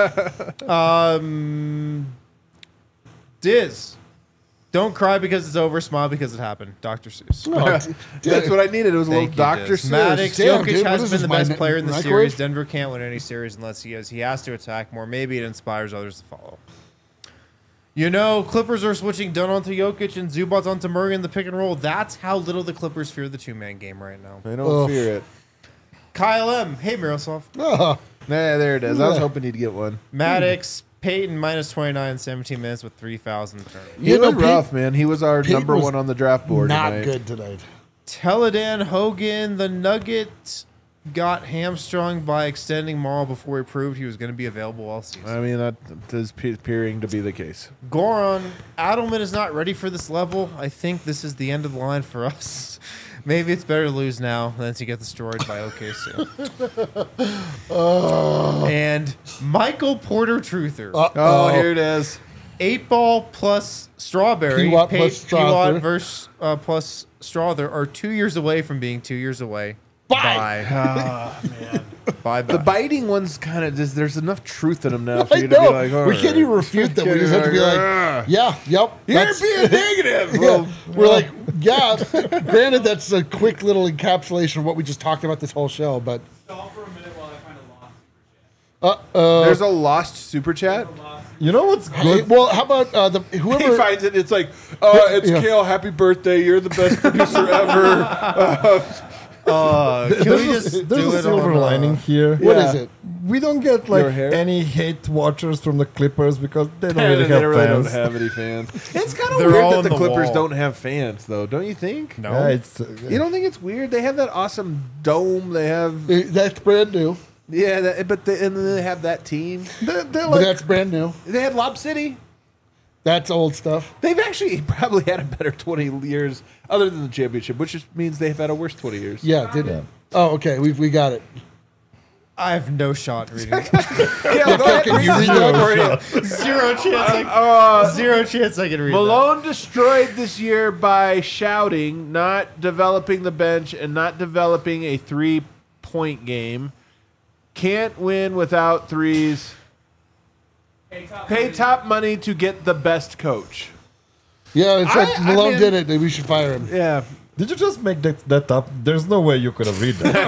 Speaker 2: Um, Diz, don't cry because it's over. Smile because it happened. Doctor Seuss.
Speaker 3: Oh, d-
Speaker 1: That's what I needed. It was a little
Speaker 2: Thank you,
Speaker 1: Doctor
Speaker 2: Diz.
Speaker 1: Seuss.
Speaker 2: Maddox,
Speaker 3: Damn,
Speaker 2: Jokic
Speaker 3: dude, what
Speaker 2: has
Speaker 3: is
Speaker 2: been
Speaker 3: this,
Speaker 2: the
Speaker 3: my
Speaker 2: best
Speaker 3: mi-
Speaker 2: player in the
Speaker 3: microwave?
Speaker 2: series. Denver can't win any series unless he has. He has to attack more. Maybe it inspires others to follow. You know, Clippers are switching Dunn onto Jokic and Zubats onto Murray in the pick and roll. That's how little the Clippers fear the two-man game right now.
Speaker 1: I don't
Speaker 3: Ugh.
Speaker 1: fear it.
Speaker 2: Kyle M. Hey, Miroslav.
Speaker 3: Oh,
Speaker 1: Nah, there it is. I was
Speaker 3: Yeah.
Speaker 1: hoping he'd get one.
Speaker 2: Maddox, Peyton, minus twenty-nine, seventeen minutes with three thousand turnovers.
Speaker 1: He
Speaker 3: You know,
Speaker 1: was
Speaker 3: Pete-
Speaker 1: rough, man. He was our
Speaker 3: Pete
Speaker 1: number
Speaker 3: was
Speaker 1: one on the draft board
Speaker 3: not
Speaker 1: tonight.
Speaker 3: good tonight.
Speaker 2: Teledan Hogan, the Nugget, got hamstrung by extending Maul before he proved he was going to be available all season.
Speaker 1: I mean, that is pe- appearing to be the case.
Speaker 2: Goron, Adelman is not ready for this level. I think this is the end of the line for us. Maybe it's better to lose now than to get destroyed by O K C. And Michael Porter Truther.
Speaker 1: Oh,
Speaker 3: Uh-oh.
Speaker 1: here it is.
Speaker 2: Eight ball plus strawberry.
Speaker 3: P-Watt
Speaker 2: Pa-
Speaker 3: plus
Speaker 2: P-Watt
Speaker 3: Strother.
Speaker 2: versus uh, plus Strother are two years away from being two years away.
Speaker 3: Bye.
Speaker 1: Ah, man.
Speaker 2: Bye.
Speaker 1: The
Speaker 2: Bye.
Speaker 1: biting one's kind of just, there's enough truth in them now for
Speaker 3: I
Speaker 1: you to
Speaker 3: know.
Speaker 1: be like, all
Speaker 3: we can't
Speaker 1: right.
Speaker 3: even refute them. We
Speaker 1: Can't
Speaker 3: just have to be
Speaker 1: even
Speaker 3: like,
Speaker 1: "Ah."
Speaker 3: yeah, yep.
Speaker 1: You're
Speaker 3: that's-
Speaker 1: being negative.
Speaker 3: Yeah,
Speaker 1: Well,
Speaker 3: we're like, yeah. Granted, that's a quick little encapsulation of what we just talked about this whole show, but
Speaker 5: Stop for a minute while I find a lost
Speaker 3: uh, uh,
Speaker 1: there's a lost super chat.
Speaker 4: You know what's
Speaker 3: hey,
Speaker 4: good?
Speaker 3: well, how about uh, the
Speaker 1: He
Speaker 3: whoever?
Speaker 1: finds it. It's like, uh, it's
Speaker 3: Yeah.
Speaker 1: Kale. Happy birthday! You're the best producer ever.
Speaker 2: Uh, can
Speaker 4: There's
Speaker 2: we
Speaker 4: a,
Speaker 2: just
Speaker 4: there's
Speaker 2: do
Speaker 4: a
Speaker 2: it
Speaker 4: silver
Speaker 2: on, uh,
Speaker 4: lining here.
Speaker 3: What
Speaker 1: Yeah.
Speaker 3: is it?
Speaker 4: We don't get
Speaker 1: Your
Speaker 4: like
Speaker 1: hair?
Speaker 4: any hate watchers from the Clippers because they don't
Speaker 1: they
Speaker 4: really have
Speaker 1: really
Speaker 4: fans.
Speaker 1: don't have any fans. It's kind of
Speaker 2: They're
Speaker 1: weird
Speaker 2: all
Speaker 1: that
Speaker 2: on
Speaker 1: the,
Speaker 2: the
Speaker 1: Clippers
Speaker 2: wall.
Speaker 1: don't have fans, though. Don't you think?
Speaker 2: No.
Speaker 4: Yeah, it's, uh,
Speaker 1: You don't think it's weird? They have that awesome dome. They have
Speaker 3: Uh, That's brand new.
Speaker 1: yeah, that, but they, and then they have that team.
Speaker 4: they're, they're
Speaker 3: But
Speaker 4: like
Speaker 3: that's brand new.
Speaker 1: They had Lob City.
Speaker 3: That's old stuff.
Speaker 1: They've actually probably had a better twenty years, other than the championship, which just means they've had a worse twenty years.
Speaker 3: Yeah, did
Speaker 4: Yeah.
Speaker 3: Oh, okay. We we got it.
Speaker 2: I have no shot reading.
Speaker 1: Yeah, go ahead.
Speaker 3: Can you
Speaker 1: read
Speaker 3: read
Speaker 1: that
Speaker 3: that?
Speaker 1: for you.
Speaker 2: Zero chance. I,
Speaker 1: Uh,
Speaker 2: zero chance I can read
Speaker 1: Malone destroyed this year by shouting, not developing the bench, and not developing a three-point game. Can't win without threes.
Speaker 5: Pay top
Speaker 1: Pay
Speaker 5: money.
Speaker 1: top money to get the best coach.
Speaker 3: Yeah, it's like
Speaker 1: I- I
Speaker 3: Malone
Speaker 1: mean-
Speaker 3: did it. We should fire him.
Speaker 1: Yeah,
Speaker 4: did you just make that, that up? There's no way you could have read that.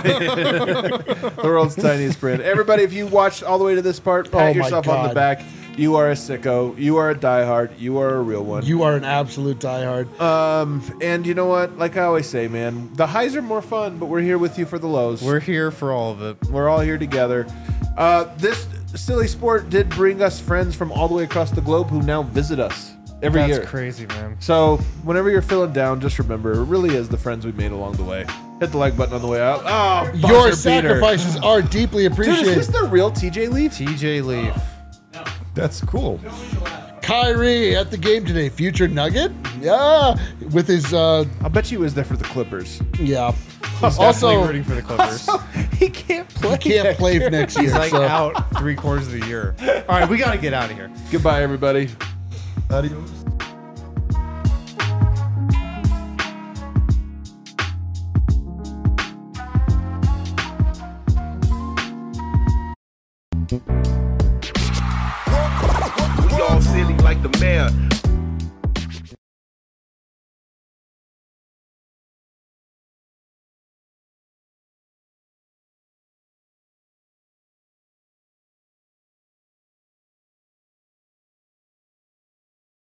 Speaker 1: the world's tiniest brand. Everybody, if you watched all the way to this part, pat
Speaker 3: Oh my
Speaker 1: yourself on the
Speaker 3: God.
Speaker 1: back. You are a sicko. You are a diehard. You are a real one.
Speaker 3: You are an absolute diehard.
Speaker 1: Um, and you know what? Like I always say, man, the highs are more fun, but we're here with you for the lows.
Speaker 2: We're here for all of it.
Speaker 1: We're all here together. Uh, this silly sport did bring us friends from all the way across the globe who now visit us every
Speaker 2: That's
Speaker 1: year.
Speaker 2: crazy, man.
Speaker 1: So whenever you're feeling down, just remember it really is the friends we made along the way. Hit the like button on the way out. Oh,
Speaker 3: Your
Speaker 1: buzzer beater.
Speaker 3: sacrifices are deeply
Speaker 1: Dude,
Speaker 3: appreciated.
Speaker 1: is this the real T J Leaf?
Speaker 2: T J Leaf.
Speaker 4: That's cool.
Speaker 3: Kyrie at the game today. Future Nugget? Yeah. With his, uh,
Speaker 1: I'll bet you he was there for the Clippers.
Speaker 3: yeah.
Speaker 2: He's
Speaker 3: Also,
Speaker 2: definitely rooting for the Clippers.
Speaker 1: he can't play.
Speaker 3: he can't play for next year.
Speaker 2: He's like
Speaker 3: so.
Speaker 2: out three quarters of the year. All right, we got to get out of here.
Speaker 1: Goodbye, everybody.
Speaker 4: Adios.
Speaker 7: We all silly like the mayor.